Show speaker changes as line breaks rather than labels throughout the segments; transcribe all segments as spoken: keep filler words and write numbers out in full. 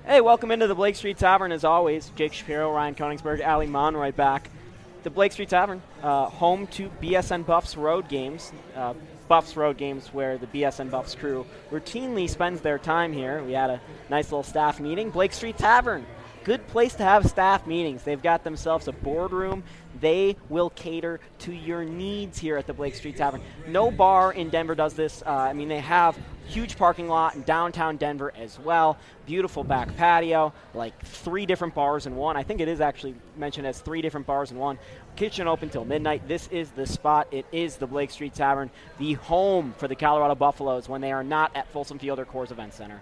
Hey, welcome into the Blake Street Tavern as always. Jake Shapiro, Ryan Koenigsberg, Ali Monroy back. The Blake Street Tavern, uh, home to B S N Buffs road games. Uh, Buffs road games where the B S N Buffs crew routinely spends their time here. We had a nice little staff meeting. Blake Street Tavern, good place to have staff meetings. They've got themselves a boardroom. They will cater to your needs here at the Blake Street Tavern. No bar in Denver does this. Uh, I mean, they have huge parking lot in downtown Denver as well. Beautiful back patio, like three different bars in one. I think it is actually mentioned as three different bars in one. Kitchen open till midnight. This is the spot. It is the Blake Street Tavern, the home for the Colorado Buffaloes when they are not at Folsom Field or Coors Event Center.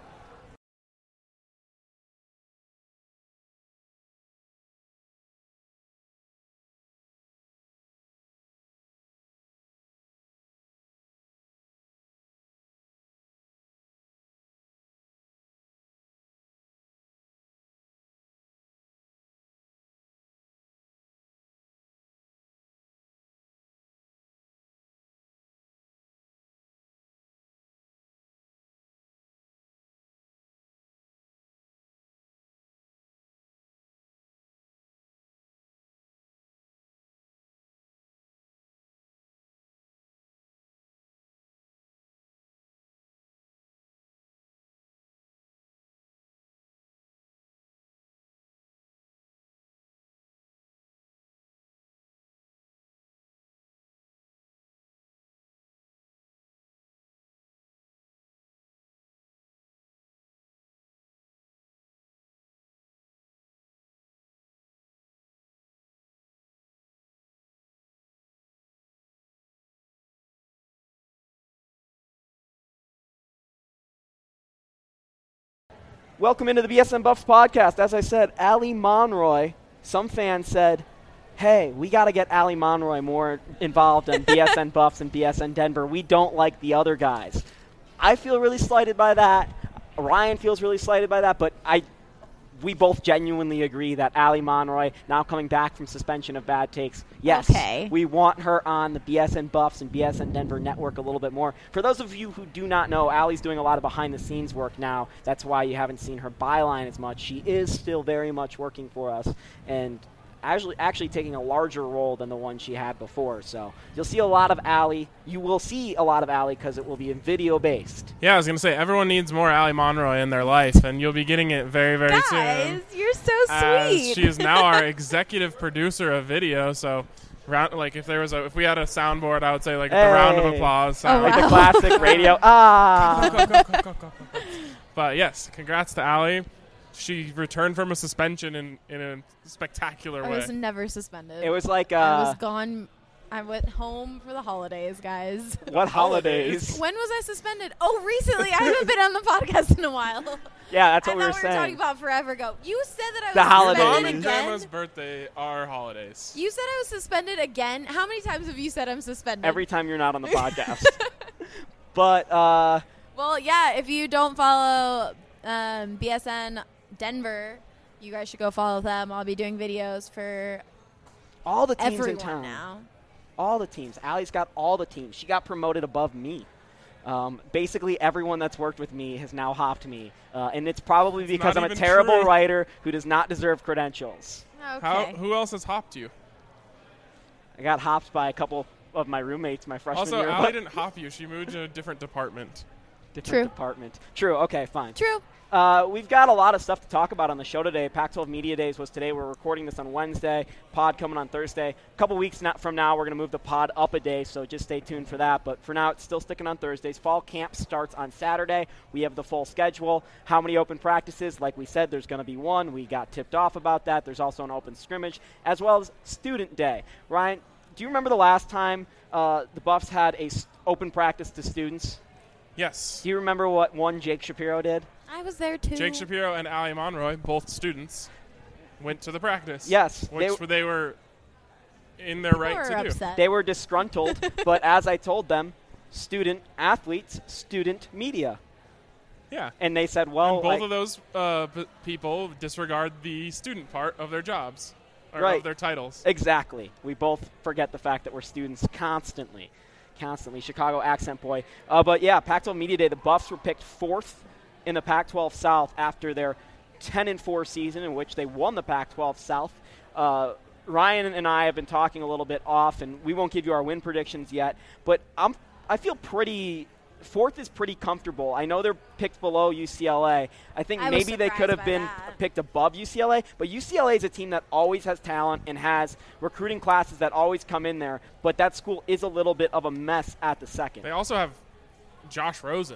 Welcome into the B S N Buffs podcast. As I said, Ali Monroy. Some fans said, hey, we got to get Ali Monroy more involved in B S N Buffs and B S N Denver. We don't like the other guys. I feel really slighted by that. Ryan feels really slighted by that, but I, we both genuinely agree that Ali Monroy, now coming back from suspension of bad takes, yes,
okay.
We want her on the B S N Buffs and B S N Denver network a little bit more. For those of you who do not know, Ali's doing a lot of behind-the-scenes work now. That's why you haven't seen her byline as much. She is still very much working for us, and actually, actually taking a larger role than the one she had before. So you'll see a lot of Ali. You will see a lot of Ali because it will be video-based.
Yeah, I was going to say, everyone needs more Ali Monroy in their life, and you'll be getting it very, very
Guys,
soon.
Guys, you're so
as
sweet.
She is now our executive producer of video, so round, like if there was a, if we had a soundboard, I would say like
hey.
the round of applause sound.
Oh, wow.
Like the classic radio. Ah.
Go, go, go, go, go, go. But yes, congrats to Ali. She returned from a suspension in, in a spectacular
I
way.
was never suspended.
It was like uh,
I was gone. I went home for the holidays, guys.
What holidays?
When was I suspended? Oh, recently. I haven't been on the podcast in a while.
Yeah, that's what
I
we were
thought we
saying.
were talking about forever ago. You said that I was
The holidays.
Mom
suspended
and
again.
Grandma's birthday are holidays.
You said I was suspended again. How many times have you said I'm suspended?
Every time you're not on the podcast. But, uh...
Well, yeah, if you don't follow um, B S N Denver, you guys should go follow them. I'll be doing videos for
all the teams
everyone
in town.
now.
All the teams. Ali's got all the teams. She got promoted above me. Um, basically, everyone that's worked with me has now hopped me. Uh, and it's probably
It's
because
not
I'm a
even
terrible
true.
writer who does not deserve credentials.
Okay.
How, who else has hopped you?
I got hopped by a couple of my roommates my freshman
Also,
year.
Ali
but
didn't hop you. She moved to a different department.
different
True.
department. True. Okay, fine.
True.
Uh, we've got a lot of stuff to talk about on the show today. Pac twelve Media Days was today. We're recording this on Wednesday. Pod coming on Thursday. A couple weeks not from now, we're going to move the pod up a day, so just stay tuned for that. But for now, it's still sticking on Thursdays. Fall camp starts on Saturday. We have the full schedule. How many open practices? Like we said, there's going to be one. We got tipped off about that. There's also an open scrimmage, as well as Student Day. Ryan, do you remember the last time uh, the Buffs had a st- open practice to students?
Yes.
Do you remember what one Jake Shapiro did?
I was there too.
Jake Shapiro and Ali Monroy, both students, went to the practice.
Yes.
Which
they,
they were in their right
Or
to
upset.
They were disgruntled, but as I told them, student athletes, student media.
do. Yeah.
And they said, well,
and both
I-
of those uh, p- people disregard the student part of their jobs, or
Right.
of their titles.
exactly. We both forget the fact that we're students constantly. Constantly. Chicago accent boy. Uh, but yeah, Pac twelve Media Day, the Buffs were picked fourth in the Pac twelve South after their ten and four season in which they won the Pac twelve South. Uh, Ryan and I have been talking a little bit off, and we won't give you our win predictions yet, but I'm, I feel pretty – fourth is pretty comfortable. I know they're picked below U C L A. I think
I was
maybe they could have
surprised by
been
that.
picked above U C L A, but U C L A is a team that always has talent and has recruiting classes that always come in there, but that school is a little bit of a mess at the second.
They also have Josh Rosen,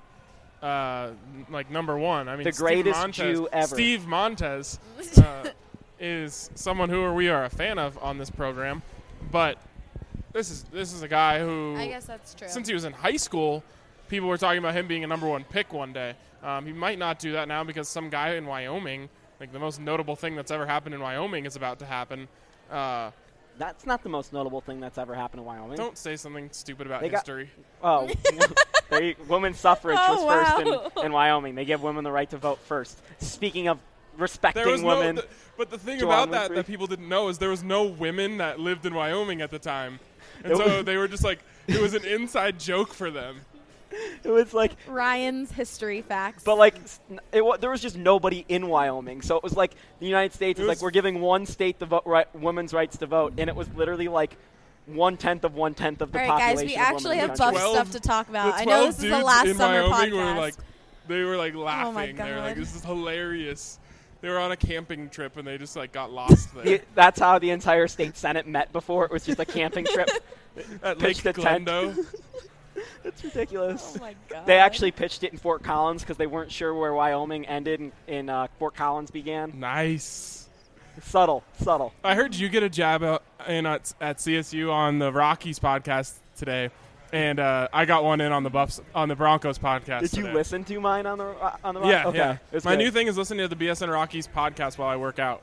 uh, like number one. I mean,
The
Steve
greatest
Montez,
Jew ever.
Steve Montez uh, is someone who we are a fan of on this program, but this is this is a guy who,
I guess that's true.
since he was in high school, people were talking about him being a number one pick one day. Um, he might not do that now because some guy in Wyoming, like the most notable thing that's ever happened in Wyoming, is about to happen. Uh,
That's not the most notable thing that's ever happened in Wyoming.
don't say something stupid about
They got-
history.
Oh, they, women's suffrage
Oh,
was
wow.
first in, in Wyoming. They give women the right to vote first. Speaking of respecting
There was no,
women,
th- but the thing
Joanne
about that
Winfrey.
that people didn't know is there was no women that lived in Wyoming at the time, and
It
so
was-
they were just like it was an inside joke for them.
it was like,
Ryan's history facts.
but like, s- it, wa- there was just nobody in Wyoming. So it was like the United States
It
is
was-
like, we're giving one state the vote, right, women's rights to vote, and it was literally like one tenth of one tenth of the
All right, guys,
population.
we
of women
actually
in the
have
country.
buff
twelve
stuff to talk about.
the
I know
twelve
this is the
dudes
last
in
summer
Wyoming
podcast.
were like, they were like laughing.
Oh my
They were like,
God.
"This is hilarious." They were on a camping trip and they just like got lost there
The- that's how the entire state senate met before. It was just a camping trip.
at Lake
pitched a tent.
Glendo.
It's ridiculous.
oh my god.
They actually pitched it in Fort Collins because they weren't sure where Wyoming ended and, and uh, Fort Collins began.
Nice.
Subtle, subtle.
I heard you get a jab out in at, at C S U on the Rockies podcast today, and uh, I got one in on the Buffs on the Broncos podcast.
Did you
today.
listen to mine on the uh, on the
Yeah,
okay.
yeah.
It was
My
good.
new thing is listening to the B S N Rockies podcast while I work out.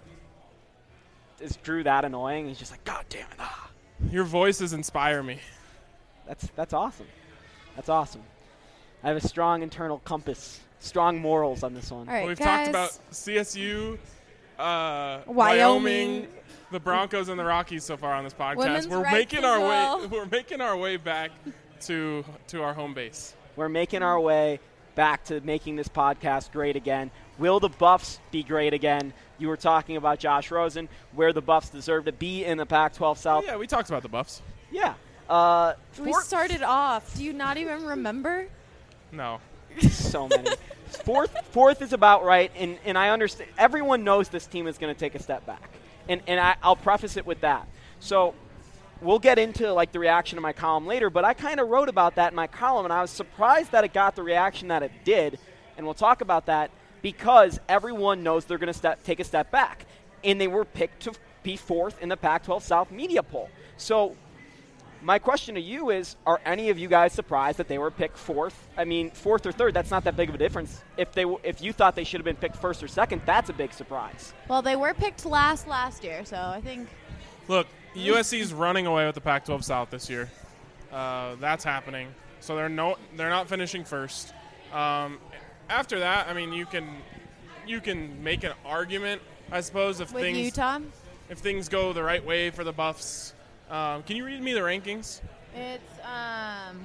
Is Drew that annoying? He's just like, God damn it! Ah.
Your voices inspire me.
That's that's awesome. That's awesome. I have a strong internal compass, strong morals on this one.
All right,
We've
guys.
talked about C S U, uh,
Wyoming.
Wyoming, the Broncos, and the Rockies so far on this podcast.
Women's
we're
rights
making
as
our
well.
way. We're making our way back to to our home base.
We're making our way back to making this podcast great again. Will the Buffs be great again? You were talking about Josh Rosen, where the Buffs deserve to be in the Pac twelve South.
Yeah, we talked about the Buffs.
Yeah. Uh,
We
four-
started off. Do you not even remember?
No.
so many. Fourth, fourth is about right, and, and I understand. Everyone knows this team is going to take a step back, and and I, I'll preface it with that. So we'll get into like the reaction of my column later, but I kind of wrote about that in my column, and I was surprised that it got the reaction that it did, and we'll talk about that because everyone knows they're going to step take a step back, and they were picked to be fourth in the Pac twelve South media poll. So my question to you is, are any of you guys surprised that they were picked fourth? I mean, fourth or third, that's not that big of a difference. If they, w- if you thought they should have been picked first or second, that's a big surprise.
Well, they were picked last last year, so I think
Look, U S C's running away with the Pac twelve South this year. Uh, that's happening. So they're no, they're not finishing first. Um, after that, I mean, you can you can make an argument, I suppose, if
with
things
Utah,
if things go the right way for the Buffs. Um, can you read me the rankings?
it's um,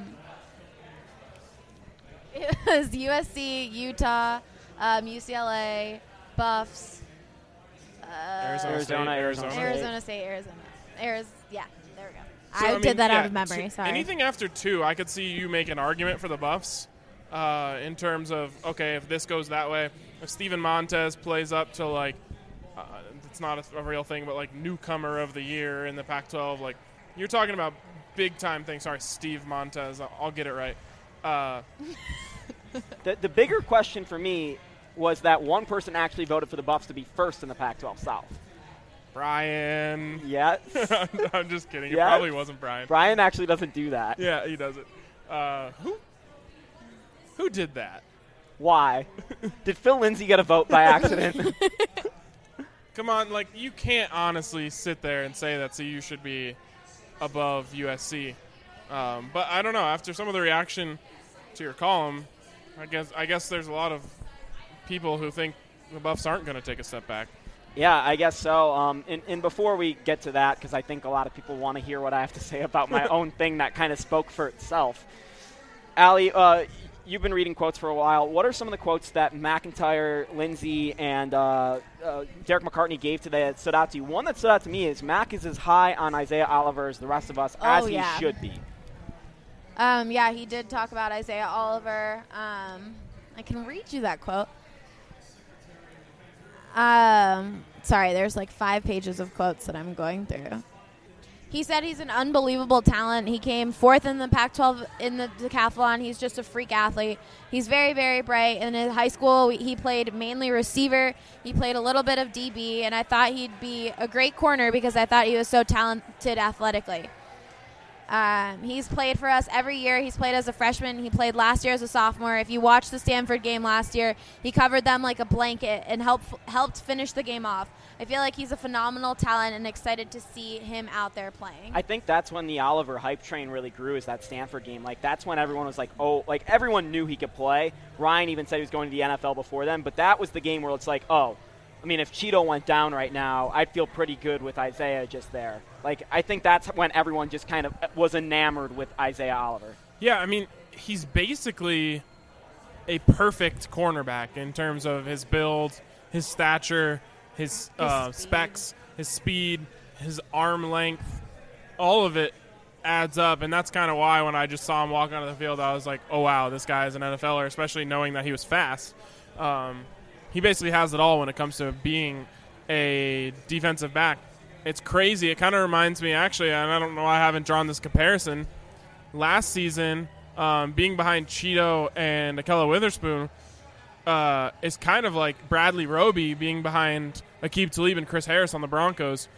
it was U S C, Utah, um, U C L A, Buffs, uh,
Arizona,
Arizona,
State,
Arizona
Arizona.
State.
Arizona State, Arizona, Arizona. Yeah, there we go.
So,
I,
mean,
did that
yeah,
out of memory.
so
Sorry.
Anything after two, I could see you make an argument for the Buffs uh, in terms of, okay, if this goes that way, if Steven Montez plays up to, like, uh, it's not a, a real thing, but, like, newcomer of the year in the Pac twelve, like, you're talking about big-time things. Sorry, Steve Montez. I'll, I'll get it right. Uh,
The, the bigger question for me was that one person actually voted for the Buffs to be first in the Pac twelve South.
Brian.
Yes.
I'm just kidding. It
Yes.
probably wasn't Brian.
Brian actually doesn't do that.
Yeah, he does it. Uh, who? Who did that?
Why? Did Phil Lindsay get a vote by accident?
Come on, like, you can't honestly sit there and say that C U should be above U S C. Um, but I don't know. After some of the reaction to your column, I guess I guess there's a lot of people who think the Buffs aren't going to take a step back.
Yeah, I guess so. Um, and, and before we get to that, because I think a lot of people want to hear what I have to say about my own thing that kind of spoke for itself. Allie, uh, you've been reading quotes for a while. What are some of the quotes that McIntyre, Lindsay, and uh, uh, Derek McCartney gave today that stood out to you? One that stood out to me is Mac is as high on Isaiah Oliver as the rest of us,
Oh,
as he
yeah.
should be.
Um, yeah, he did talk about Isaiah Oliver. Um, I can read you that quote. Um, sorry, there's like five pages of quotes that I'm going through. He said he's an unbelievable talent. He came fourth in the Pac twelve in the decathlon. He's just a freak athlete. He's very, very bright. In his high school, he played mainly receiver. He played a little bit of D B, and I thought he'd be a great corner because I thought he was so talented athletically. Um, he's played for us every year. He's played as a freshman. He played last year as a sophomore. If you watched the Stanford game last year, he covered them like a blanket and helped helped finish the game off. I feel like he's a phenomenal talent and excited to see him out there playing.
I think that's when the Oliver hype train really grew, is that Stanford game. Like, that's when everyone was like, oh, like, everyone knew he could play. Ryan even said he was going to the N F L before then, but that was the game where it's like, oh, I mean, if Cheeto went down right now, I'd feel pretty good with Isaiah just there. Like, I think that's when everyone just kind of was enamored with Isaiah Oliver.
Yeah, I mean, he's basically a perfect cornerback in terms of his build, his stature, his uh, specs, his speed, his arm length. All of it adds up, and that's kind of why when I just saw him walk onto the field, I was like, oh, wow, this guy is an N F L er, especially knowing that he was fast. Um, he basically has it all when it comes to being a defensive back. It's crazy. It kind of reminds me, actually, and I don't know why I haven't drawn this comparison. Last season, um, being behind Cheeto and Akella Witherspoon uh, is kind of like Bradley Roby being behind Aqib Talib and Chris Harris on the Broncos.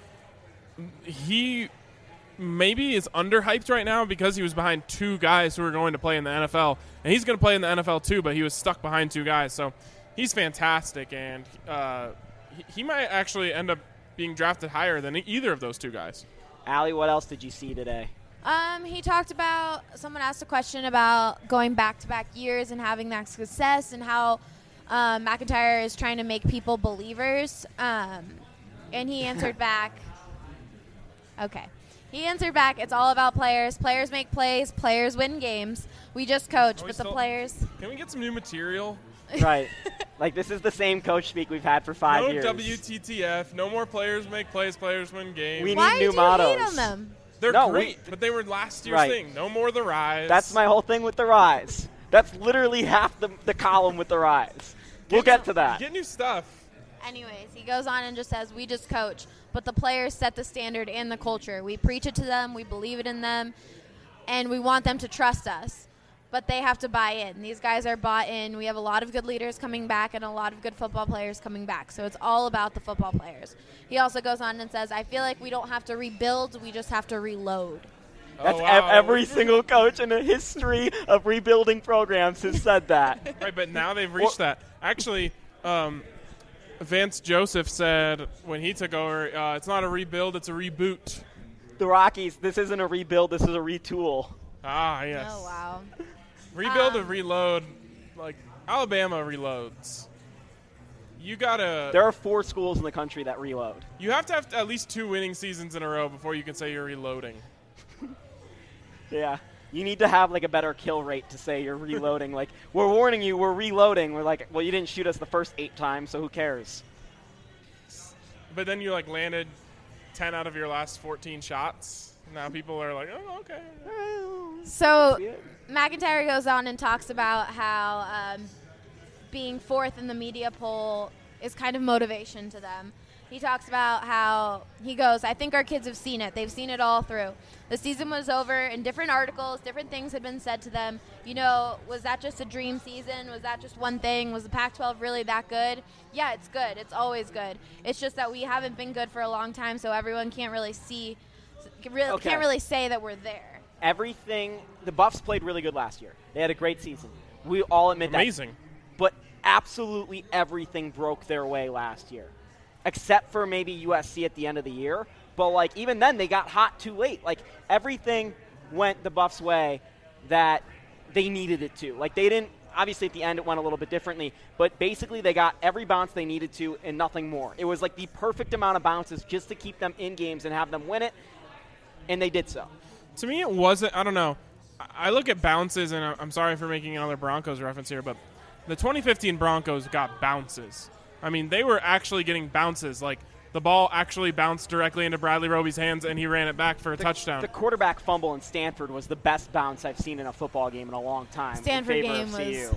He maybe is underhyped right now because he was behind two guys who are going to play in the N F L. And he's going to play in the N F L too, but he was stuck behind two guys. So he's fantastic, and uh, he, he might actually end up being drafted higher than either of those two guys.
Allie, what else did you see today?
Um, he talked about, someone asked a question about going back-to-back years and having that success and how um, McIntyre is trying to make people believers. Um, and he answered back, okay. He answered back, it's all about players. Players make plays. Players win games. We just coach,
Are we
but the
still-
players...
Can we get some new material?
Right. Like, this is the same coach speak we've had for five
no
years.
W T T F. No more players make plays. Players win games.
We
Why
need new
do
mottos.
you hate on them?
They're
No,
great,
we-
but they were last year's
Right.
thing. No more the rise.
That's my whole thing with the Rise. That's literally half the, the column with the Rise. We'll get to that.
Get new stuff.
Anyways, he goes on and just says, we just coach, but the players set the standard and the culture. We preach it to them, we believe it in them, and we want them to trust us. But they have to buy in. These guys are bought in. We have a lot of good leaders coming back and a lot of good football players coming back. So it's all about the football players. He also goes on and says, I feel like we don't have to rebuild, we just have to reload.
That's
oh,
ev-
wow.
every single coach in the history of rebuilding programs has said that.
Right, but now they've reached that. Actually, um, Vance Joseph said when he took over, uh, it's not a rebuild, it's a reboot.
The Rockies, this isn't a rebuild, this is a retool.
Ah, yes.
Oh, wow.
Rebuild
Um,
and reload. Like, Alabama reloads. You gotta.
There are four schools in the country that reload.
You have to have at least two winning seasons in a row before you can say you're reloading.
Yeah. You need to have, like, a better kill rate to say you're reloading. Like, we're warning you, we're reloading. We're like, well, you didn't shoot us the first eight times, so who cares?
But then you like landed ten out of your last fourteen shots. Now people are like, oh, okay.
So
Yeah.
McIntyre goes on and talks about how um, being fourth in the media poll is kind of motivation to them. He talks about how, he goes, I think our kids have seen it. They've seen it all through. The season was over, and different articles, different things had been said to them. You know, was that just a dream season? Was that just one thing? Was the Pac twelve really that good? Yeah, it's good. It's always good. It's just that we haven't been good for a long time, so everyone can't really see, really,
Okay.
can't really say that we're there.
Everything, the Buffs played really good last year. They had a great season. We all admit
Amazing.
that. But absolutely everything broke their way last year, except for maybe U S C at the end of the year. But, like, even then, they got hot too late. Like, everything went the Buffs' way that they needed it to. Like, they didn't – obviously, at the end, it went a little bit differently. But basically, they got every bounce they needed to and nothing more. It was, like, the perfect amount of bounces just to keep them in games and have them win it, and they did so.
To me, it wasn't. I don't know. I look at bounces, and I'm sorry for making another Broncos reference here, but the twenty fifteen Broncos got bounces. I mean, they were actually getting bounces. Like, the ball actually bounced directly into Bradley Roby's hands, and he ran it back for a
the,
touchdown.
The quarterback fumble in Stanford was the best bounce I've seen in a football game in a long time.
Stanford
in favor
game
of
was.
C U.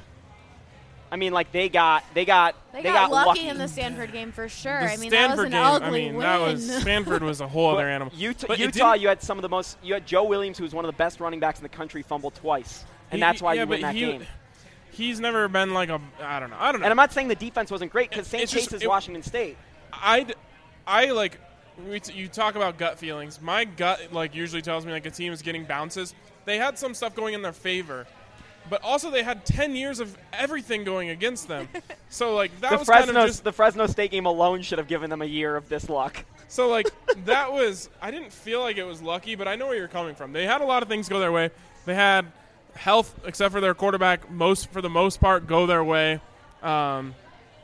I mean, like they got they got
They,
they
got,
got
lucky,
lucky
in the Stanford game for sure.
The
I mean,
Stanford
that was an
game,
ugly
I mean,
win.
that was Stanford was a whole other animal.
Utah,
But it
Utah
didn't-
you had some of the most. You had Joe Williams, who was one of the best running backs in the country, fumble twice, and
He-
that's why
yeah,
you win
but
that
he-
game.
He's never been like a I don't know. I don't know.
And I'm not saying the defense wasn't great because Saint
It's just-
Chase is
it-
Washington State.
I'd, I like, we t- you talk about gut feelings. My gut like usually tells me like a team is getting bounces. They had some stuff going in their favor, but also they had ten years of everything going against them. So like that
The
was
Fresno,
kind of just
the Fresno State game alone should have given them a year of this luck.
so like that was. I didn't feel like it was lucky, but I know where you're coming from. They had a lot of things go their way. They had health, except for their quarterback, most for the most part go their way. Um,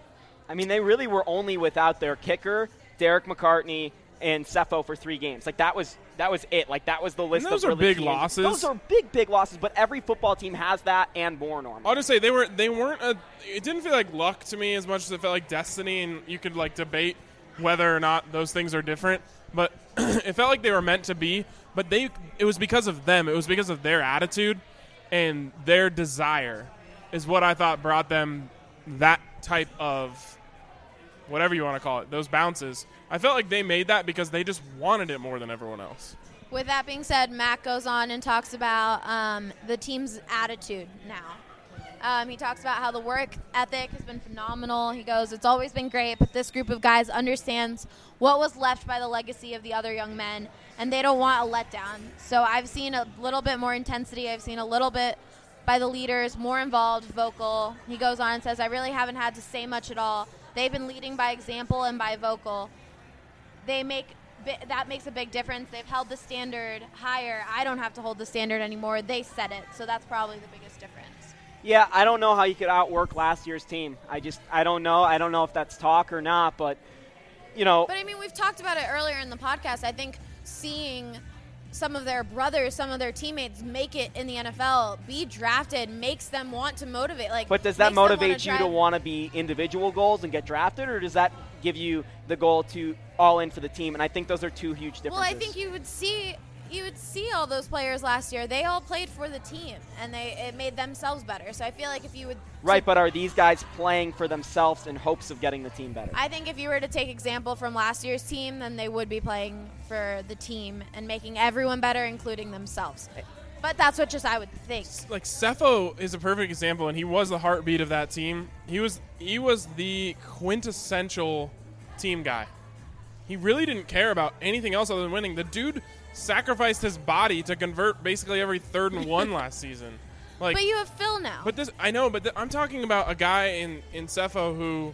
I mean, they really were only without their kicker, Derek McCartney, and Cepho for three games. Like that was that was it. Like that was the list.
And those
of
are
really
big
key-
losses.
Those are big, big losses. But every football team has that and more normally.
I'll just say they were they weren't a. It didn't feel like luck to me as much as it felt like destiny, and you could like debate whether or not those things are different. But it felt like they were meant to be. But they it was because of them. It was because of their attitude and their desire is what I thought brought them that type of whatever you want to call it, those bounces. I felt like they made that because they just wanted it more than everyone else.
With that being said, Matt goes on and talks about um, the team's attitude now. Um, he talks about how the work ethic has been phenomenal. He goes, it's always been great, but this group of guys understands what was left by the legacy of the other young men, and they don't want a letdown. So I've seen a little bit more intensity. I've seen a little bit by the leaders, more involved, vocal. He goes on and says, I really haven't had to say much at all. They've been leading by example and by vocal. They make that makes a big difference. They've held the standard higher. I don't have to hold the standard anymore. They set it, so that's probably the biggest difference.
Yeah, I don't know how you could outwork last year's team. I just, I don't know. I don't know if that's talk or not, but, you know.
But, I mean, we've talked about it earlier in the podcast. I think seeing some of their brothers, some of their teammates make it in the N F L, be drafted, makes them want to motivate. Like,
But does that
makes them wanna
motivate you to
drive-
want to be individual goals and get drafted, or does that give you the goal to all in for the team? And I think those are two huge differences.
Well, I think you would see you would see all those players last year. They all played for the team, and they it made themselves better. So I feel like if you would
Right, but are these guys playing for themselves in hopes of getting the team better?
I think if you were to take example from last year's team, then they would be playing for the team and making everyone better, including themselves. But that's what just I would think.
Like Cepho is a perfect example, and he was the heartbeat of that team. He was he was the quintessential team guy. He really didn't care about anything else other than winning. The dude sacrificed his body to convert basically every third and one last season. Like,
But you have Phil now.
but this I know, but th- I'm talking about a guy in in Cepho who,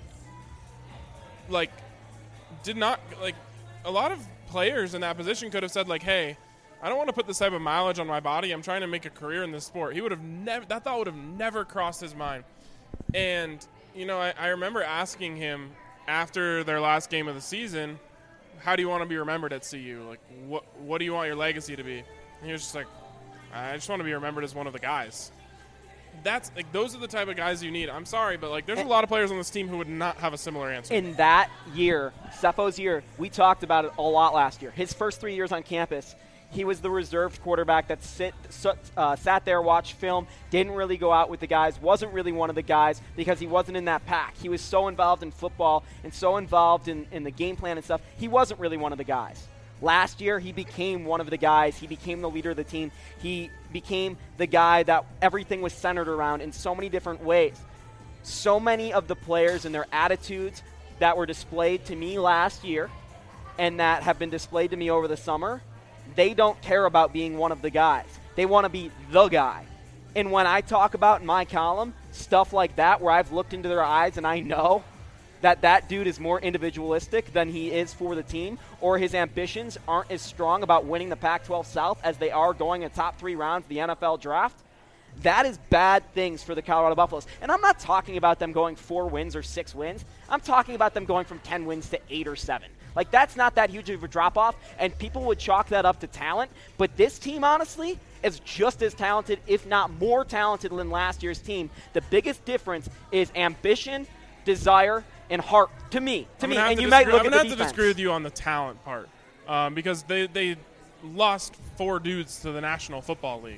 like, did not like. A lot of players in that position could have said like, "Hey, I don't want to put this type of mileage on my body. I'm trying to make a career in this sport." He would have never. That thought would have never crossed his mind. And you know, I, I remember asking him after their last game of the season, "How do you want to be remembered at C U? Like, what what do you want your legacy to be?" And he was just like, "I just want to be remembered as one of the guys." That's like those are the type of guys you need. I'm sorry, but like there's a lot of players on this team who would not have a similar answer.
In that year, Cepho's year, we talked about it a lot last year. His first three years on campus, he was the reserved quarterback that sit, uh, sat there, watched film, didn't really go out with the guys, wasn't really one of the guys because he wasn't in that pack. He was so involved in football and so involved in, in the game plan and stuff, he wasn't really one of the guys. Last year, he became one of the guys. He became the leader of the team. He became the guy that everything was centered around in so many different ways. So many of the players and their attitudes that were displayed to me last year and that have been displayed to me over the summer, they don't care about being one of the guys. They want to be the guy. And when I talk about in my column stuff like that where I've looked into their eyes and I know that that dude is more individualistic than he is for the team, or his ambitions aren't as strong about winning the Pac twelve South as they are going in top three rounds of the N F L draft, That is bad things for the Colorado Buffaloes. And I'm not talking about them going four wins or six wins. I'm talking about them going from ten wins to eight or seven. Like, that's not that huge of a drop-off, and people would chalk that up to talent. But this team, honestly, is just as talented, if not more talented than last year's team. The biggest difference is ambition, desire, and heart, to me. To
I'm
me,
gonna
and
have
you
to
might
disagree-
look
I'm
at
gonna
the
have
defense.
to disagree with you on the talent part, um, because they they lost four dudes to the National Football League.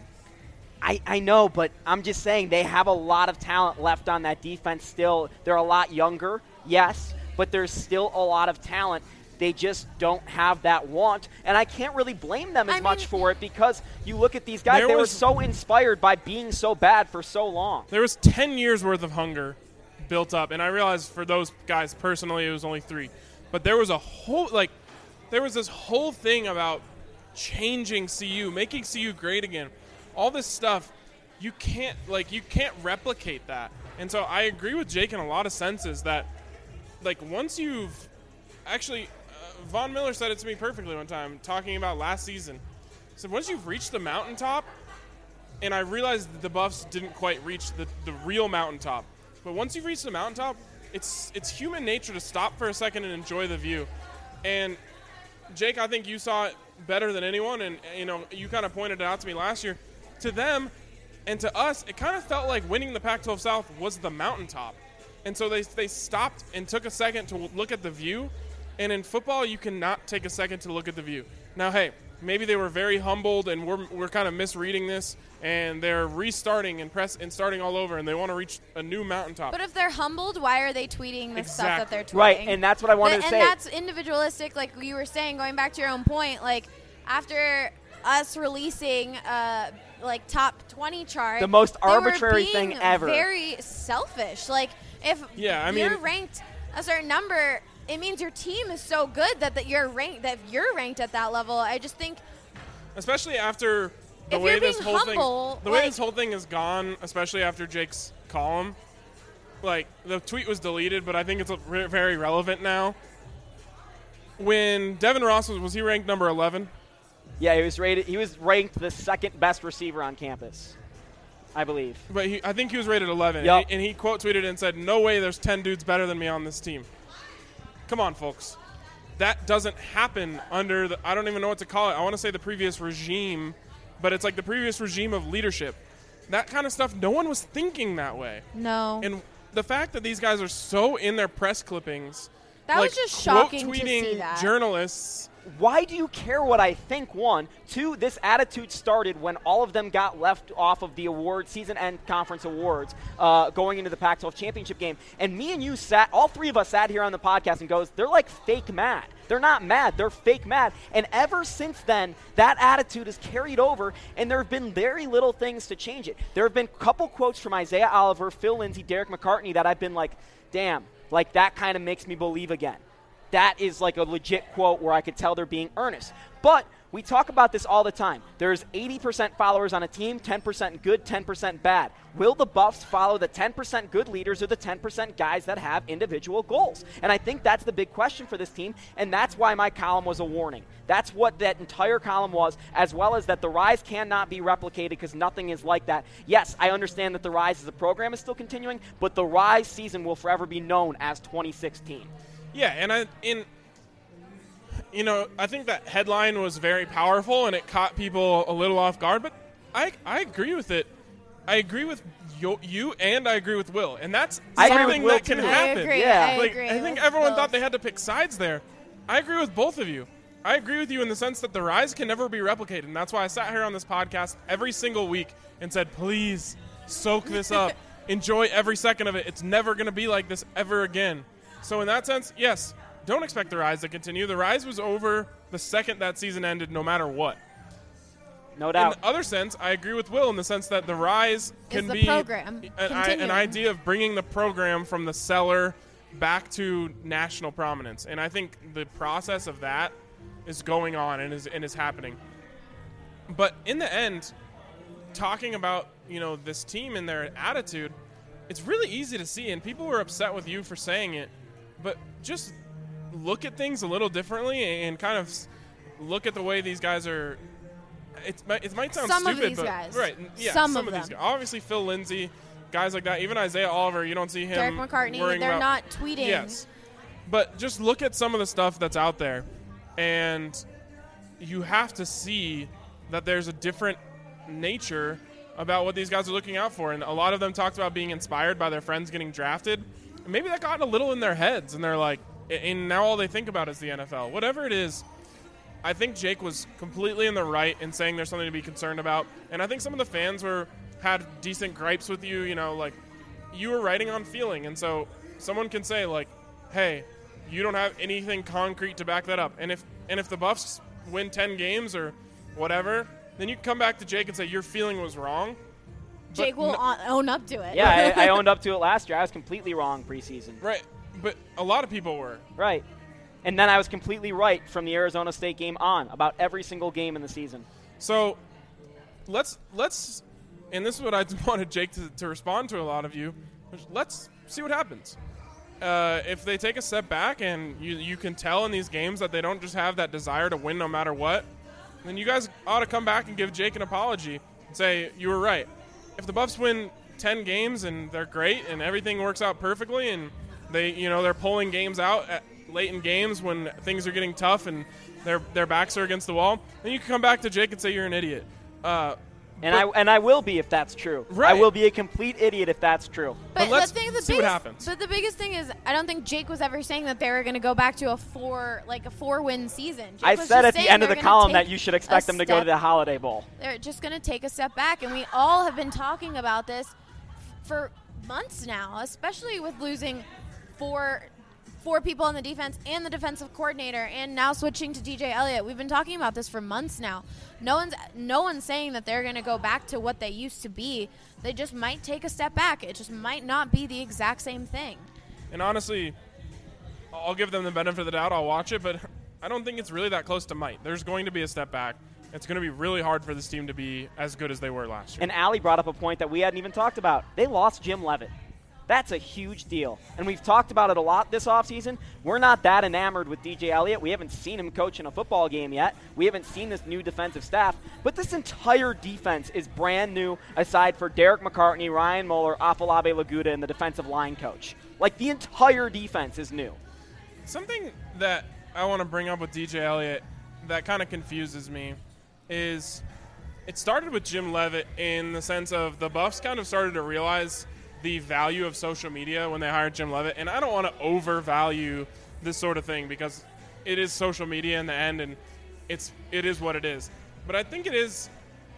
I, I know, but I'm just saying they have a lot of talent left on that defense still. They're a lot younger, yes, but there's still a lot of talent. They just don't have that want, and I can't really blame them as
I
much
mean-
for it because you look at these guys,
There
they were
was-
so inspired by being so bad for so long.
There was ten years worth of hunger built up, and I realized for those guys personally it was only three, but there was a whole like there was this whole thing about changing C U, making C U great again. All this stuff, you can't like you can't replicate that. And so I agree with Jake in a lot of senses that like once you've actually uh, Von Miller said it to me perfectly one time talking about last season. He said once you've reached the mountaintop, and I realized that the Buffs didn't quite reach the, the real mountaintop. But once you've reached the mountaintop, it's it's human nature to stop for a second and enjoy the view. And Jake, I think you saw it better than anyone, and you know you kind of pointed it out to me last year. To them and to us, it kind of felt like winning the Pac twelve South was the mountaintop. And so they they stopped and took a second to look at the view. And in football, you cannot take a second to look at the view. Now, hey, maybe they were very humbled, and we're we're kind of misreading this, and they're restarting and press and starting all over, and they want to reach a new mountaintop.
But if they're humbled, why are they tweeting the stuff that they're tweeting?
Right, and that's what I wanted
The-
to
and
say.
that's individualistic, like you were saying, going back to your own point. Like, after us releasing uh, like top twenty chart,
The most
they were
arbitrary
being
thing ever.
Very selfish. Like, if
Yeah, I
you're
mean-
ranked a certain number, it means your team is so good that, that you're ranked that you're ranked at that level. I just think
Especially after the
If
way
you're
this
being
whole
humble,
thing, the way
like-
this whole thing is gone, especially after Jake's column. Like the tweet was deleted, but I think it's re- very relevant now. When Devin Ross was, was he ranked number eleven?
Yeah, he was rated. He was ranked the second best receiver on campus, I believe.
But he, I think he was rated eleven,
Yup.
and, he, and he quote tweeted and said, "No way, there's ten dudes better than me on this team." Come on, folks, that doesn't happen under the. I don't even know what to call it. I want to say the previous regime, but it's like the previous regime of leadership. That kind of stuff. No one was thinking that way,
no.
and the fact that these guys are so in their press clippings,
That
like
was just shocking to
quote tweeting
see that.
journalists.
Why do you care what I think, one? Two, this attitude started when all of them got left off of the award season end conference awards uh, going into the Pac twelve championship game. And me and you sat, all three of us sat here on the podcast and goes, they're like fake mad. They're not mad. They're fake mad. And ever since then, that attitude has carried over, and there have been very little things to change it. There have been a couple quotes from Isaiah Oliver, Phil Lindsay, Derek McCartney that I've been like, damn, like that kind of makes me believe again. That is like a legit quote where I could tell they're being earnest. But we talk about this all the time. There's eighty percent followers on a team, ten percent good, ten percent bad. Will the Buffs follow the ten percent good leaders or the ten percent guys that have individual goals? And I think that's the big question for this team, and that's why my column was a warning. That's what that entire column was, as well as that the Rise cannot be replicated because nothing is like that. Yes, I understand that the Rise as a program is still continuing, but the Rise season will forever be known as twenty sixteen.
Yeah, and I in you know, I think that headline was very powerful and it caught people a little off guard, but I I agree with it. I agree with you, you and I agree with Will, and that's
I agree
something
with Will
that can
too.
I
happen.
agree.
Yeah.
I
Like
agree.
I think
with
everyone
both.
thought they had to pick sides there. I agree with both of you. I agree with you in the sense that the Rise can never be replicated, and that's why I sat here on this podcast every single week and said, please soak this up. Enjoy every second of it. It's never going to be like this ever again. So in that sense, yes, don't expect the Rise to continue. The Rise was over the second that season ended, no matter what.
No
In
doubt.
the other sense, I agree with Will in the sense that the Rise can
the
be
program
an, I, an
continuing.
idea of bringing the program from the cellar back to national prominence. And I think the process of that is going on and is and is happening. But in the end, talking about, you know, this team and their attitude, it's really easy to see, and people were upset with you for saying it, but just look at things a little differently and kind of s- look at the way these guys are it might, it might sound
Some
stupid,
of these
but
guys.
right, yeah,
Some
some,
of
of, these
them.
guys. Obviously, Phil Lindsay, guys like that. Even Isaiah Oliver, you don't see him.
Derek McCartney,
worrying
they're
about,
not tweeting.
Yes, but just look at some of the stuff that's out there, and you have to see that there's a different nature about what these guys are looking out for. And a lot of them talked about being inspired by their friends getting drafted. And maybe that got a little in their heads, and they're like, and now all they think about is the N F L. Whatever it is, I think Jake was completely in the right in saying there's something to be concerned about. And I think some of the fans were had decent gripes with you, you know, like you were writing on feeling. And so someone can say like, hey, you don't have anything concrete to back that up. And if and if the Buffs win ten games or whatever, then you can come back to Jake and say your feeling was wrong.
Jake
But
will
no-
on- own up to it.
Yeah, I, I owned up to it last year. I was completely wrong preseason.
Right, but a lot of people were.
Right. And then I was completely right from the Arizona State game on about every single game in the season.
So let's let's, and this is what I wanted Jake to, to respond to a lot of you. Let's see what happens. Uh, if they take a step back and you you can tell in these games that they don't just have that desire to win no matter what, then you guys ought to come back and give Jake an apology and say you were right. If the Buffs win ten games and they're great and everything works out perfectly and they you know they're pulling games out at late in games when things are getting tough and their their backs are against the wall, then you can come back to Jake and say you're an idiot. Uh,
And
but-
I and I will be if that's true.
Right.
I will be a complete idiot if that's true.
But,
But let's
the thing, the
see what
biggest,
happens.
But the biggest thing is, I don't think Jake was ever saying that they were going to go back to a four, like a four-win season. Jake
I
was
said
just
at the
saying
end of
they're
the
gonna
column
take
that you should expect
a
them to go to
step-
the Holiday Bowl.
They're just going to take a step back, and we all have been talking about this for months now, especially with losing four four people on the defense and the defensive coordinator, and now switching to D J Elliott. We've been talking about this for months now. No one's no one's saying that they're going to go back to what they used to be. They just might take a step back. It just might not be the exact same thing.
And honestly, I'll give them the benefit of the doubt. I'll watch it, but I don't think it's really that close to might. There's going to be a step back. It's going to be really hard for this team to be as good as they were last year.
And Allie brought up a point that we hadn't even talked about. They lost Jim Leavitt. That's a huge deal. And we've talked about it a lot this offseason. We're not that enamored with D J Elliott. We haven't seen him coach in a football game yet. We haven't seen this new defensive staff. But this entire defense is brand new, aside for Derek McCartney, Ryan Moeller, Afolabi Laguda, and the defensive line coach. Like, the entire defense is new.
Something that I want to bring up with D J Elliott that kind of confuses me is it started with Jim Leavitt in the sense of the Buffs kind of started to realize the value of social media when they hired Jim Leavitt. And I don't want to overvalue this sort of thing because it is social media in the end and it's it is what it is. But I think it is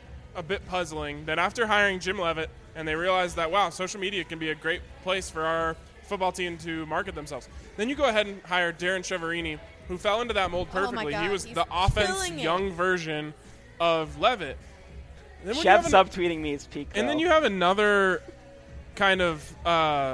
a bit puzzling that after hiring Jim Leavitt and they realized that, wow, social media can be a great place for our football team to market themselves. Then you go ahead and hire Darren Cheverini, who fell into that mold
Oh my
perfectly.
God,
he was
he's
the offense
killing it.
young version of Leavitt. And then when you
Chev
have an-
subtweeting me is peak.
and then
though.
you have another kind of uh,